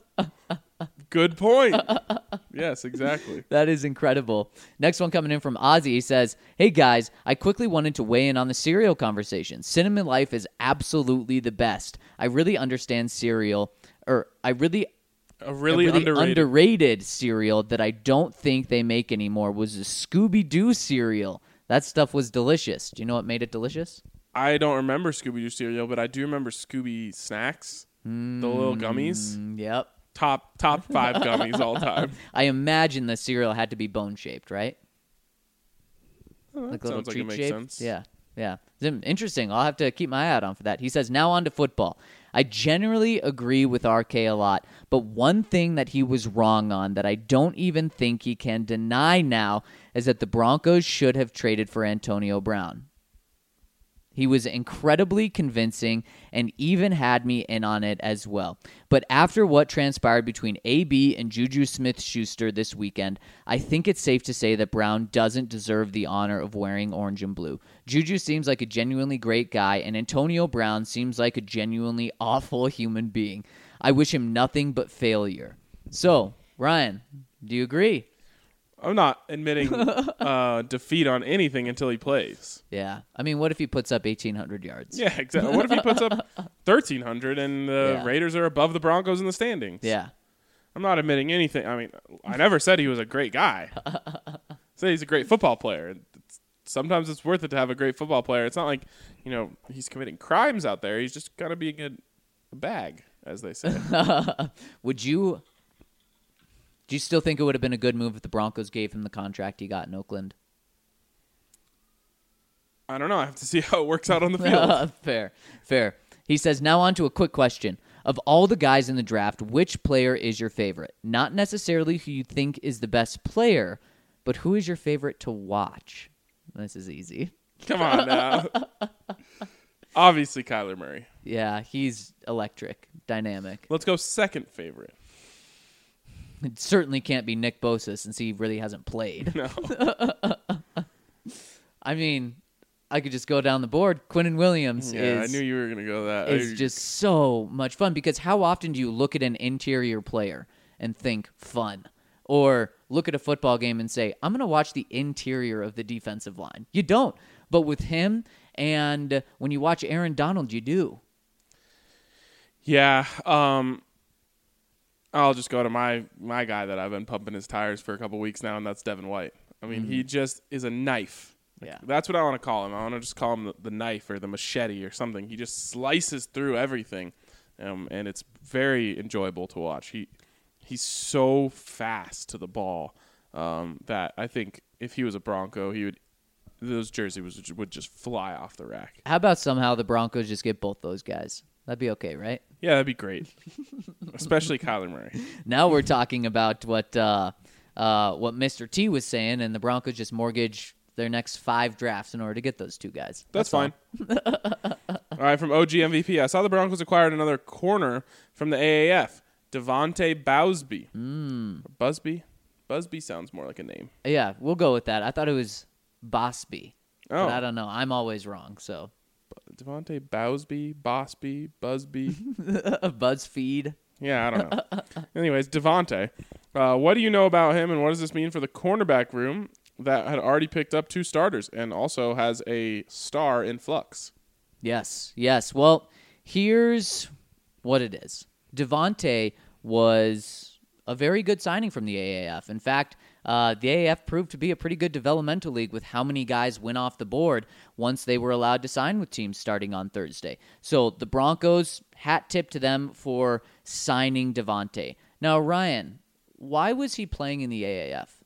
[SPEAKER 4] Good point. Yes, exactly.
[SPEAKER 5] That is incredible. Next one coming in from Ozzy. He says, hey guys, I quickly wanted to weigh in on the cereal conversation. Cinnamon Life is absolutely the best. I really understand cereal, or I really...
[SPEAKER 4] A really,
[SPEAKER 5] a really
[SPEAKER 4] underrated.
[SPEAKER 5] underrated cereal that I don't think they make anymore was the Scooby-Doo cereal. That stuff was delicious. Do you know what made it delicious?
[SPEAKER 4] I don't remember Scooby-Doo cereal, but I do remember Scooby Snacks, mm, the little gummies.
[SPEAKER 5] Yep.
[SPEAKER 4] Top top five gummies all time.
[SPEAKER 5] I imagine the cereal had to be bone-shaped, right?
[SPEAKER 4] Oh,
[SPEAKER 5] like
[SPEAKER 4] that
[SPEAKER 5] little
[SPEAKER 4] sounds like it
[SPEAKER 5] treat
[SPEAKER 4] makes
[SPEAKER 5] shaped?
[SPEAKER 4] sense.
[SPEAKER 5] Yeah, yeah. It's interesting. I'll have to keep my eye out on for that. He says, now on to football. I generally agree with R K a lot, but one thing that he was wrong on that I don't even think he can deny now is that the Broncos should have traded for Antonio Brown. He was incredibly convincing and even had me in on it as well. But after what transpired between A B and Juju Smith-Schuster this weekend, I think it's safe to say that Brown doesn't deserve the honor of wearing orange and blue. Juju seems like a genuinely great guy, and Antonio Brown seems like a genuinely awful human being. I wish him nothing but failure. So, Ryan, do you agree?
[SPEAKER 4] I'm not admitting uh, defeat on anything until he plays.
[SPEAKER 5] Yeah. I mean, what if he puts up eighteen hundred yards?
[SPEAKER 4] Yeah, exactly. What if he puts up thirteen hundred and the
[SPEAKER 5] Yeah.
[SPEAKER 4] Raiders are above the Broncos in the standings?
[SPEAKER 5] Yeah.
[SPEAKER 4] I'm not admitting anything. I mean, I never said he was a great guy. I said he's a great football player. It's, sometimes it's worth it to have a great football player. It's not like, you know, he's committing crimes out there. He's just kind of being a, a bag, as they say.
[SPEAKER 5] Would you... Do you still think it would have been a good move if the Broncos gave him the contract he got in Oakland?
[SPEAKER 4] I don't know. I have to see how it works out on the field.
[SPEAKER 5] Fair, fair. He says, now on to a quick question. Of all the guys in the draft, which player is your favorite? Not necessarily who you think is the best player, but who is your favorite to watch? This is easy.
[SPEAKER 4] Come on now. Obviously, Kyler Murray.
[SPEAKER 5] Yeah, he's electric, dynamic.
[SPEAKER 4] Let's go second favorite.
[SPEAKER 5] It certainly can't be Nick Bosa since he really hasn't played.
[SPEAKER 4] No.
[SPEAKER 5] I mean, I could just go down the board. Quinnen Williams
[SPEAKER 4] Yeah,
[SPEAKER 5] is...
[SPEAKER 4] I knew you were going to go that.
[SPEAKER 5] It's
[SPEAKER 4] I-
[SPEAKER 5] just so much fun because how often do you look at an interior player and think fun? Or look at a football game and say, I'm going to watch the interior of the defensive line. You don't. But with him and when you watch Aaron Donald, you do.
[SPEAKER 4] Yeah. Um, I'll just go to my, my guy that I've been pumping his tires for a couple weeks now, and that's Devin White. I mean, mm-hmm. he just is a knife.
[SPEAKER 5] Yeah.
[SPEAKER 4] That's what I want to call him. I want to just call him the, the knife or the machete or something. He just slices through everything, um, and it's very enjoyable to watch. He He's so fast to the ball um, that I think if he was a Bronco, he would those jerseys would, would just fly off the rack.
[SPEAKER 5] How about somehow the Broncos just get both those guys? That'd be okay, right?
[SPEAKER 4] Yeah, that'd be great. Especially Kyler Murray.
[SPEAKER 5] Now we're talking about what uh, uh, what Mister T was saying, and the Broncos just mortgage their next five drafts in order to get those two guys.
[SPEAKER 4] That's,
[SPEAKER 5] That's
[SPEAKER 4] fine. All right, from O G M V P, I saw the Broncos acquired another corner from the A A F, Devontae Bowsby.
[SPEAKER 5] Mm.
[SPEAKER 4] Busby? Busby sounds more like a name.
[SPEAKER 5] Yeah, we'll go with that. I thought it was Bosby.
[SPEAKER 4] Oh.
[SPEAKER 5] But I don't know. I'm always wrong, so.
[SPEAKER 4] Devontae Bowsby, Bosby, Busby.
[SPEAKER 5] BuzzFeed.
[SPEAKER 4] Yeah, I don't know. Anyways, Devontae. Uh, what do you know about him, and what does this mean for the cornerback room that had already picked up two starters and also has a star in flux?
[SPEAKER 5] Yes, yes. Well, here's what it is. Devontae was a very good signing from the A A F. In fact, uh, the A A F proved to be a pretty good developmental league with how many guys went off the board once they were allowed to sign with teams starting on Thursday. So the Broncos, hat tip to them for signing Devontae. Now, Ryan, why was he playing in the A A F?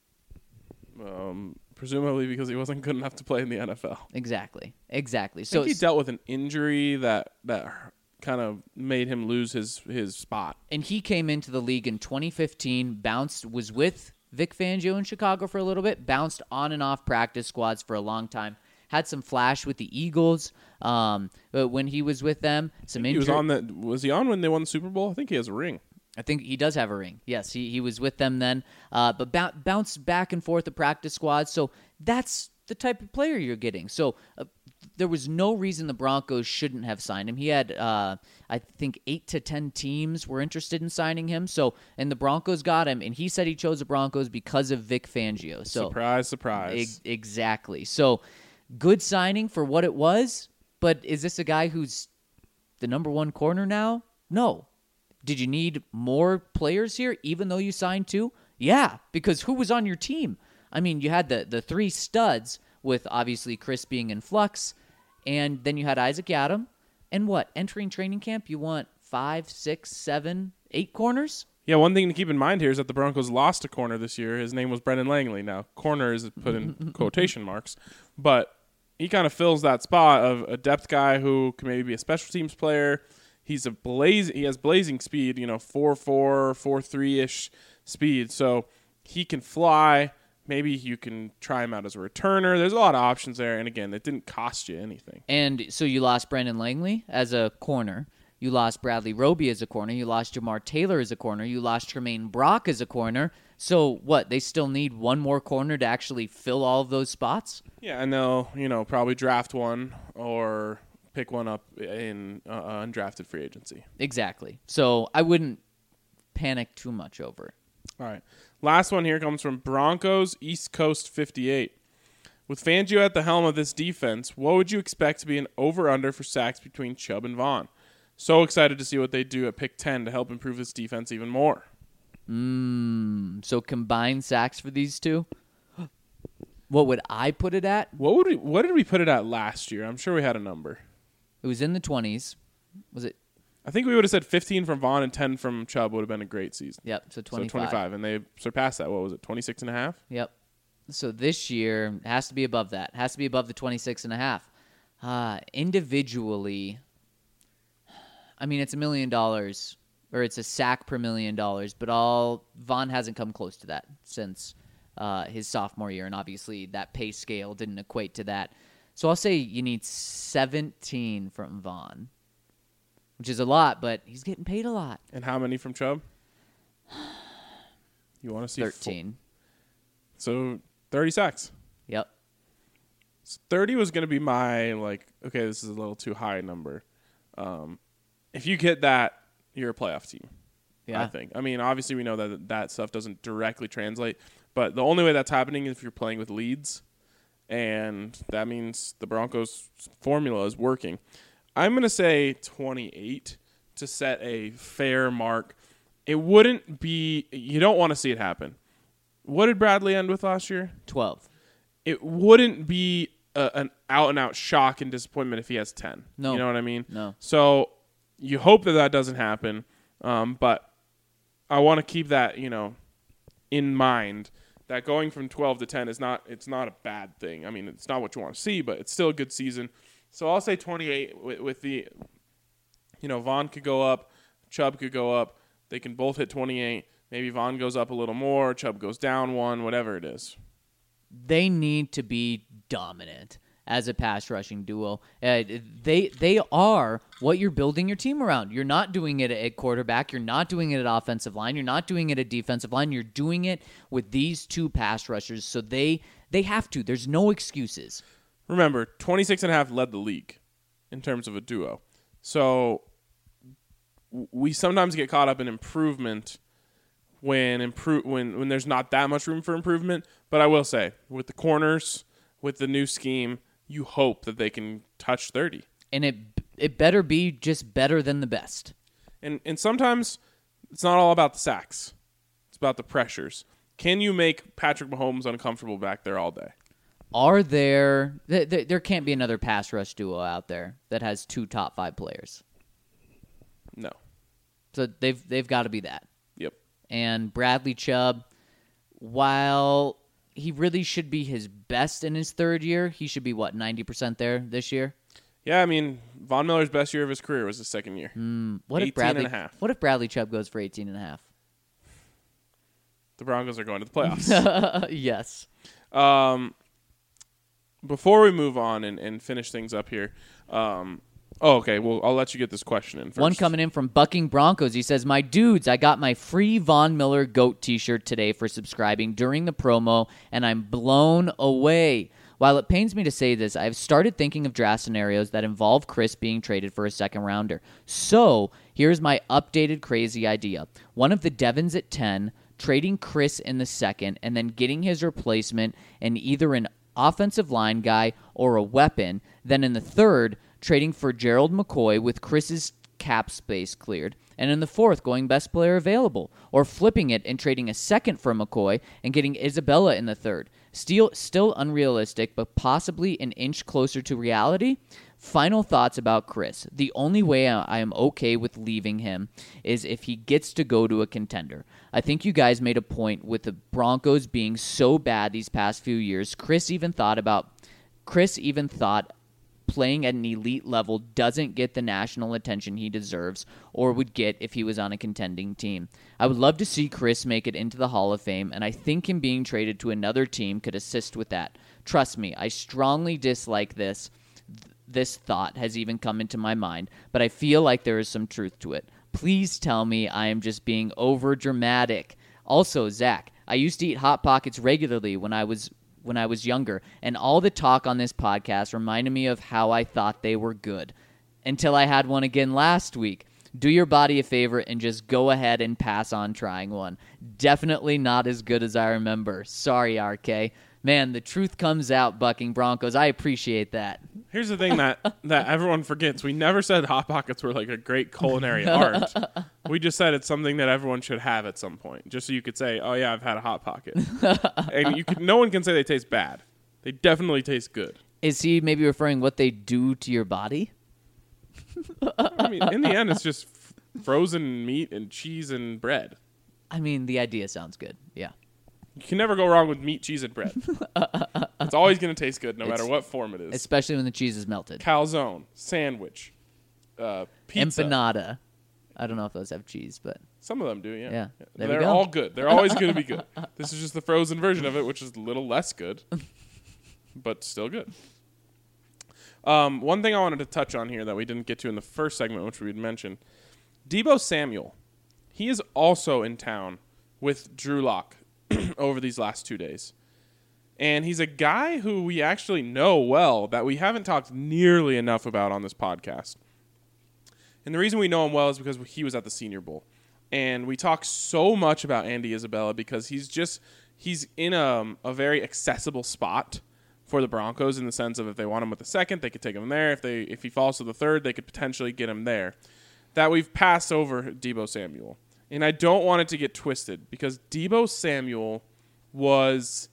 [SPEAKER 4] Um, presumably because he wasn't good enough to play in the N F L.
[SPEAKER 5] Exactly, exactly.
[SPEAKER 4] I
[SPEAKER 5] So
[SPEAKER 4] think he dealt with an injury that that kind of made him lose his, his spot.
[SPEAKER 5] And he came into the league in twenty fifteen, bounced, was with Vic Fangio in Chicago for a little bit, bounced on and off practice squads for a long time, had some flash with the Eagles um, but when he was with them. Some
[SPEAKER 4] He was on the, was he on when they won the Super Bowl? I think he has a ring.
[SPEAKER 5] I think he does have a ring. Yes, he, he was with them then, uh, but b- bounced back and forth the practice squads. So that's the type of player you're getting. So uh, there was no reason the Broncos shouldn't have signed him. He had, uh, I think, eight to ten teams were interested in signing him. So, and the Broncos got him, and he said he chose the Broncos because of Vic Fangio. So
[SPEAKER 4] surprise, surprise.
[SPEAKER 5] E- exactly. So good signing for what it was. But is this a guy who's the number one corner now? No. Did you need more players here, even though you signed two? Yeah, because who was on your team? I mean, you had the, the three studs with obviously Chris being in flux, and then you had Isaac Yiadom. And what? Entering training camp, you want five, six, seven, eight corners?
[SPEAKER 4] Yeah, one thing to keep in mind here is that the Broncos lost a corner this year. His name was Brendan Langley. Now, corner is put in quotation marks, but he kind of fills that spot of a depth guy who can maybe be a special teams player. He's a blaze. He has blazing speed, you know, four four, four three ish speed. So he can fly. Maybe you can try him out as a returner. There's a lot of options there. And again, it didn't cost you anything.
[SPEAKER 5] And so you lost Brendan Langley as a corner. You lost Bradley Roby as a corner. You lost Jamar Taylor as a corner. You lost Tremaine Brock as a corner. So what? They still need one more corner to actually fill all of those spots?
[SPEAKER 4] Yeah, and they'll, you know, probably draft one or pick one up in uh, undrafted free agency.
[SPEAKER 5] Exactly. So I wouldn't panic too much over it.
[SPEAKER 4] All right. Last one here comes from Broncos East Coast fifty-eight. With Fangio at the helm of this defense, what would you expect to be an over-under for sacks between Chubb and Vaughn? So excited to see what they do at pick ten to help improve this defense even more.
[SPEAKER 5] Mm, so combined sacks for these two? What would I put it at?
[SPEAKER 4] What would we? What did we put it at last year? I'm sure we had a number.
[SPEAKER 5] It was in the twenties. Was it?
[SPEAKER 4] I think we would have said fifteen from Vaughn and ten from Chubb would have been a great season.
[SPEAKER 5] Yep, so twenty-five.
[SPEAKER 4] So twenty-five, and they surpassed that. What was it, twenty-six and a half?
[SPEAKER 5] Yep. So this year it has to be above that. It has to be above the twenty-six and a half. Uh, individually, I mean, it's a million dollars, or it's a sack per million dollars, but all Vaughn hasn't come close to that since uh, his sophomore year, and obviously that pay scale didn't equate to that. So I'll say you need seventeen from Vaughn, which is a lot, but he's getting paid a lot.
[SPEAKER 4] And how many from Chubb? You want to see
[SPEAKER 5] thirteen.
[SPEAKER 4] Four. So thirty sacks.
[SPEAKER 5] Yep.
[SPEAKER 4] So thirty was going to be my, like, okay, this is a little too high number. Um, if you get that, you're a playoff team.
[SPEAKER 5] Yeah.
[SPEAKER 4] I think. I mean, obviously we know that that stuff doesn't directly translate, but the only way that's happening is if you're playing with leads, and that means the Broncos' formula is working. I'm going to say twenty-eight to set a fair mark. It wouldn't be – you don't want to see it happen. What did Bradley end with last year?
[SPEAKER 5] twelve.
[SPEAKER 4] It wouldn't be a, an out-and-out shock and disappointment if he has ten.
[SPEAKER 5] No.
[SPEAKER 4] You know what I mean?
[SPEAKER 5] No.
[SPEAKER 4] So you hope that that doesn't happen, um, but I want to keep that, you know, in mind that going from twelve to ten is not it's not a bad thing. I mean, it's not what you want to see, but it's still a good season. So I'll say twenty-eight with, with the, you know, Vaughn could go up, Chubb could go up. They can both hit twenty-eight. Maybe Vaughn goes up a little more, Chubb goes down one, whatever it is.
[SPEAKER 5] They need to be dominant as a pass rushing duo. Uh, they they are what you're building your team around. You're not doing it at quarterback. You're not doing it at offensive line. You're not doing it at defensive line. You're doing it with these two pass rushers. So they they have to. There's no excuses.
[SPEAKER 4] Remember, twenty-six and a half led the league in terms of a duo. So we sometimes get caught up in improvement when improve when when there's not that much room for improvement. But I will say, with the corners, with the new scheme, you hope that they can touch thirty.
[SPEAKER 5] And it it better be just better than the best.
[SPEAKER 4] And and sometimes it's not all about the sacks. It's about the pressures. Can you make Patrick Mahomes uncomfortable back there all day?
[SPEAKER 5] Are there th- th- there can't be another pass rush duo out there that has two top five players.
[SPEAKER 4] No.
[SPEAKER 5] So they've they've got to be that.
[SPEAKER 4] Yep.
[SPEAKER 5] And Bradley Chubb, while he really should be his best in his third year, he should be, what, ninety percent there this year?
[SPEAKER 4] Yeah, I mean, Von Miller's best year of his career was his second year.
[SPEAKER 5] Mm, what if Bradley,
[SPEAKER 4] and a half.
[SPEAKER 5] What if Bradley Chubb goes for eighteen and a half?
[SPEAKER 4] The Broncos are going to the playoffs.
[SPEAKER 5] Yes.
[SPEAKER 4] Um, before we move on and, and finish things up here, um, oh, okay, well, I'll let you get this question in first.
[SPEAKER 5] One coming in from Bucking Broncos. He says, my dudes, I got my free Von Miller GOAT t-shirt today for subscribing during the promo, and I'm blown away. While it pains me to say this, I've started thinking of draft scenarios that involve Chris being traded for a second rounder. So here's my updated crazy idea. One of the Devons at ten, trading Chris in the second, and then getting his replacement in either an offensive line guy or a weapon. Then in the third, trading for Gerald McCoy with Chris's cap space cleared. And in the fourth, going best player available. Or flipping it and trading a second for McCoy and getting Isabella in the third. Still, still unrealistic, but possibly an inch closer to reality. Final thoughts about Chris. The only way I am okay with leaving him is if he gets to go to a contender. I think you guys made a point with the Broncos being so bad these past few years. Chris even thought about Chris even thought playing at an elite level doesn't get the national attention he deserves or would get if he was on a contending team. I would love to see Chris make it into the Hall of Fame, and I think him being traded to another team could assist with that. Trust me, I strongly dislike this. This thought has even come into my mind, but I feel like there is some truth to it. Please tell me I am just being over dramatic. Also, Zach, I used to eat Hot Pockets regularly when I was when I was younger, and all the talk on this podcast reminded me of how I thought they were good. Until I had one again last week. Do your body a favor and just go ahead and pass on trying one. Definitely not as good as I remember. Sorry, R K. Man, the truth comes out, Bucking Broncos. I appreciate that.
[SPEAKER 4] Here's the thing that, that everyone forgets. We never said Hot Pockets were like a great culinary art. We just said it's something that everyone should have at some point. Just so you could say, oh, yeah, I've had a Hot Pocket. And you could, no one can say they taste bad. They definitely taste good.
[SPEAKER 5] Is he maybe referring what they do to your body?
[SPEAKER 4] I mean, in the end, it's just f- frozen meat and cheese and bread.
[SPEAKER 5] I mean, the idea sounds good. Yeah.
[SPEAKER 4] You can never go wrong with meat, cheese, and bread. It's always going to taste good, no
[SPEAKER 5] It's-
[SPEAKER 4] matter what form it is.
[SPEAKER 5] Especially when the cheese is melted.
[SPEAKER 4] Calzone, sandwich, uh, pizza.
[SPEAKER 5] Empanada. I don't know if those have cheese, but
[SPEAKER 4] Some of them do, yeah.
[SPEAKER 5] Yeah, there we
[SPEAKER 4] They're
[SPEAKER 5] go.
[SPEAKER 4] all good. They're always going to be good. This is just the frozen version of it, which is a little less good, but still good. Um, one thing I wanted to touch on here that we didn't get to in the first segment, which we had mentioned, Deebo Samuel. He is also in town with Drew Lock over these last two days. And he's a guy who we actually know well that we haven't talked nearly enough about on this podcast. And the reason we know him well is because he was at the Senior Bowl. And we talk so much about Andy Isabella because he's just he's in a, a very accessible spot for the Broncos in the sense of if they want him with the second, they could take him there. If they if he falls to the third, they could potentially get him there. That we've passed over Deebo Samuel. And I don't want it to get twisted because Deebo Samuel was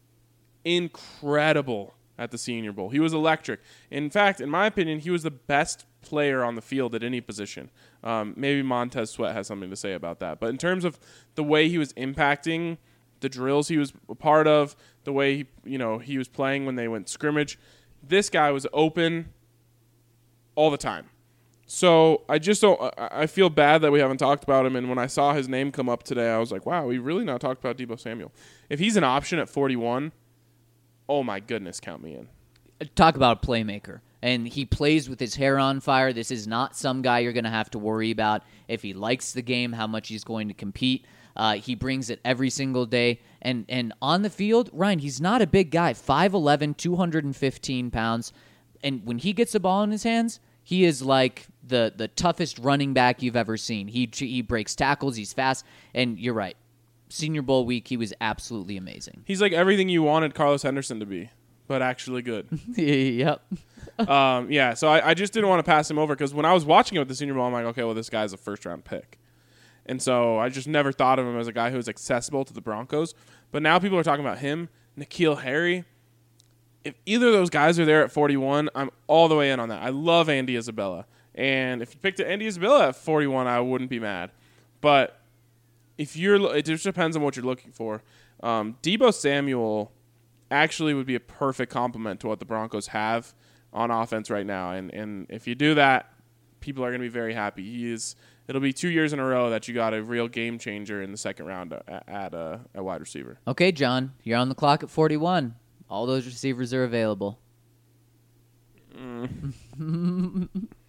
[SPEAKER 4] incredible at the Senior Bowl. He was electric. In fact, in my opinion, he was the best player on the field at any position. Um, maybe Montez Sweat has something to say about that. But in terms of the way he was impacting the drills he was a part of, the way he, you know, he was playing when they went scrimmage. This guy was open all the time. So I just don't – I feel bad that we haven't talked about him, and when I saw his name come up today, I was like, wow, we really not talked about Deebo Samuel. If he's an option at forty-one, oh my goodness, count me in.
[SPEAKER 5] Talk about a playmaker. And he plays with his hair on fire. This is not some guy you're going to have to worry about if he likes the game, how much he's going to compete. Uh, he brings it every single day. And and on the field, Ryan, he's not a big guy. five eleven, two hundred fifteen pounds. And when he gets the ball in his hands, he is like the the toughest running back you've ever seen. He he breaks tackles. He's fast. And you're right. Senior Bowl week, he was absolutely amazing.
[SPEAKER 4] He's like everything you wanted Carlos Henderson to be, but actually good.
[SPEAKER 5] Yep.
[SPEAKER 4] um, yeah, so I, I just didn't want to pass him over because when I was watching him at the Senior Bowl, I'm like, okay, well, this guy's a first-round pick. And so I just never thought of him as a guy who was accessible to the Broncos. But now people are talking about him, N'Keal Harry. If either of those guys are there at forty-one, I'm all the way in on that. I love Andy Isabella. And if you picked Andy Isabella at forty-one, I wouldn't be mad. But if you're, it just depends on what you're looking for. Um, Deebo Samuel actually would be a perfect complement to what the Broncos have on offense right now. And and if you do that, people are going to be very happy. He is. It'll be two years in a row that you got a real game changer in the second round at, at a, a wide receiver.
[SPEAKER 5] Okay, John, you're on the clock at forty-one. All those receivers are available.
[SPEAKER 4] Mm.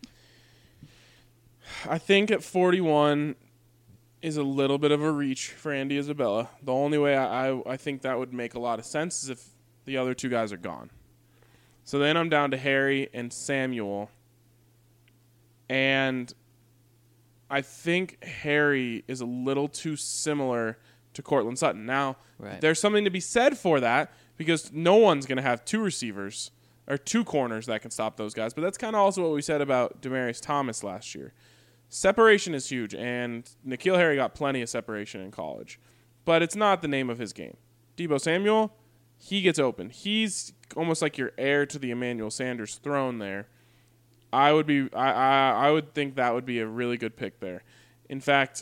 [SPEAKER 4] I think at forty-one is a little bit of a reach for Andy Isabella. The only way I, I, I think that would make a lot of sense is if the other two guys are gone. So then I'm down to Harry and Samuel. And I think Harry is a little too similar to Cortland Sutton. Now,
[SPEAKER 5] right.
[SPEAKER 4] There's something to be said for that because no one's going to have two receivers or two corners that can stop those guys. But that's kind of also what we said about Demaryius Thomas last year. Separation is huge, and N'Keal Harry got plenty of separation in college. But it's not the name of his game. Deebo Samuel, he gets open. He's almost like your heir to the Emmanuel Sanders throne there. I would be, I, I, I would think that would be a really good pick there. In fact,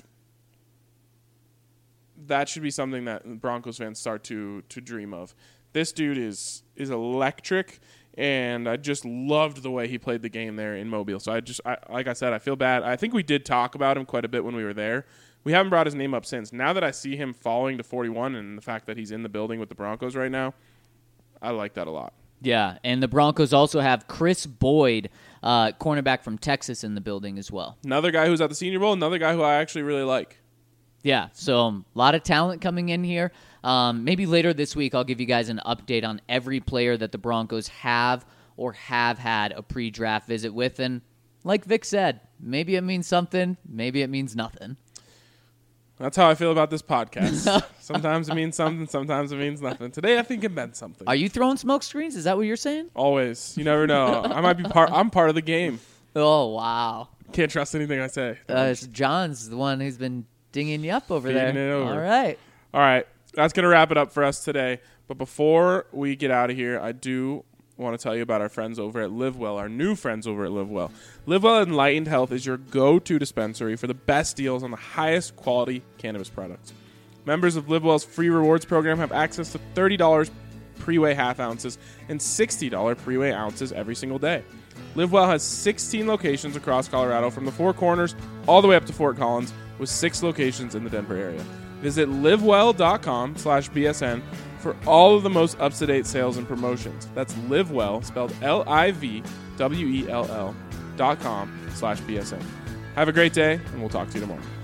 [SPEAKER 4] that should be something that Broncos fans start to to dream of. This dude is is electric, and I just loved the way he played the game there in Mobile. So I just, I, like I said, I feel bad. I think we did talk about him quite a bit when we were there. We haven't brought his name up since. Now that I see him falling to forty-one and the fact that he's in the building with the Broncos right now, I like that a lot.
[SPEAKER 5] Yeah, and the Broncos also have Chris Boyd, uh, cornerback from Texas, in the building as well.
[SPEAKER 4] Another guy who's at the Senior Bowl, another guy who I actually really like.
[SPEAKER 5] Yeah, so a um, lot of talent coming in here. Um, maybe later this week I'll give you guys an update on every player that the Broncos have or have had a pre-draft visit with. And like Vic said, maybe it means something, maybe it means nothing.
[SPEAKER 4] That's how I feel about this podcast. Sometimes it means something, sometimes it means nothing. Today I think it meant something.
[SPEAKER 5] Are you throwing smoke screens? Is that what you're saying?
[SPEAKER 4] Always. You never know. I might be part. I'm part of the game.
[SPEAKER 5] Oh, wow.
[SPEAKER 4] Can't trust anything I say.
[SPEAKER 5] Uh, John's the one who's been dinging you up over
[SPEAKER 4] Feeding
[SPEAKER 5] there.
[SPEAKER 4] it over.
[SPEAKER 5] All right.
[SPEAKER 4] All right. That's going to wrap it up for us today. But before we get out of here, I do want to tell you about our friends over at LiveWell, our new friends over at LiveWell. LiveWell Enlightened Health is your go-to dispensary for the best deals on the highest quality cannabis products. Members of LiveWell's free rewards program have access to thirty dollars pre-weigh half ounces and sixty dollars pre-weigh ounces every single day. LiveWell has sixteen locations across Colorado from the Four Corners all the way up to Fort Collins with six locations in the Denver area. Visit livewell.com slash BSN for all of the most up-to-date sales and promotions. That's LiveWell, spelled L I V W E L L dot com slash B S N. Have a great day, and we'll talk to you tomorrow.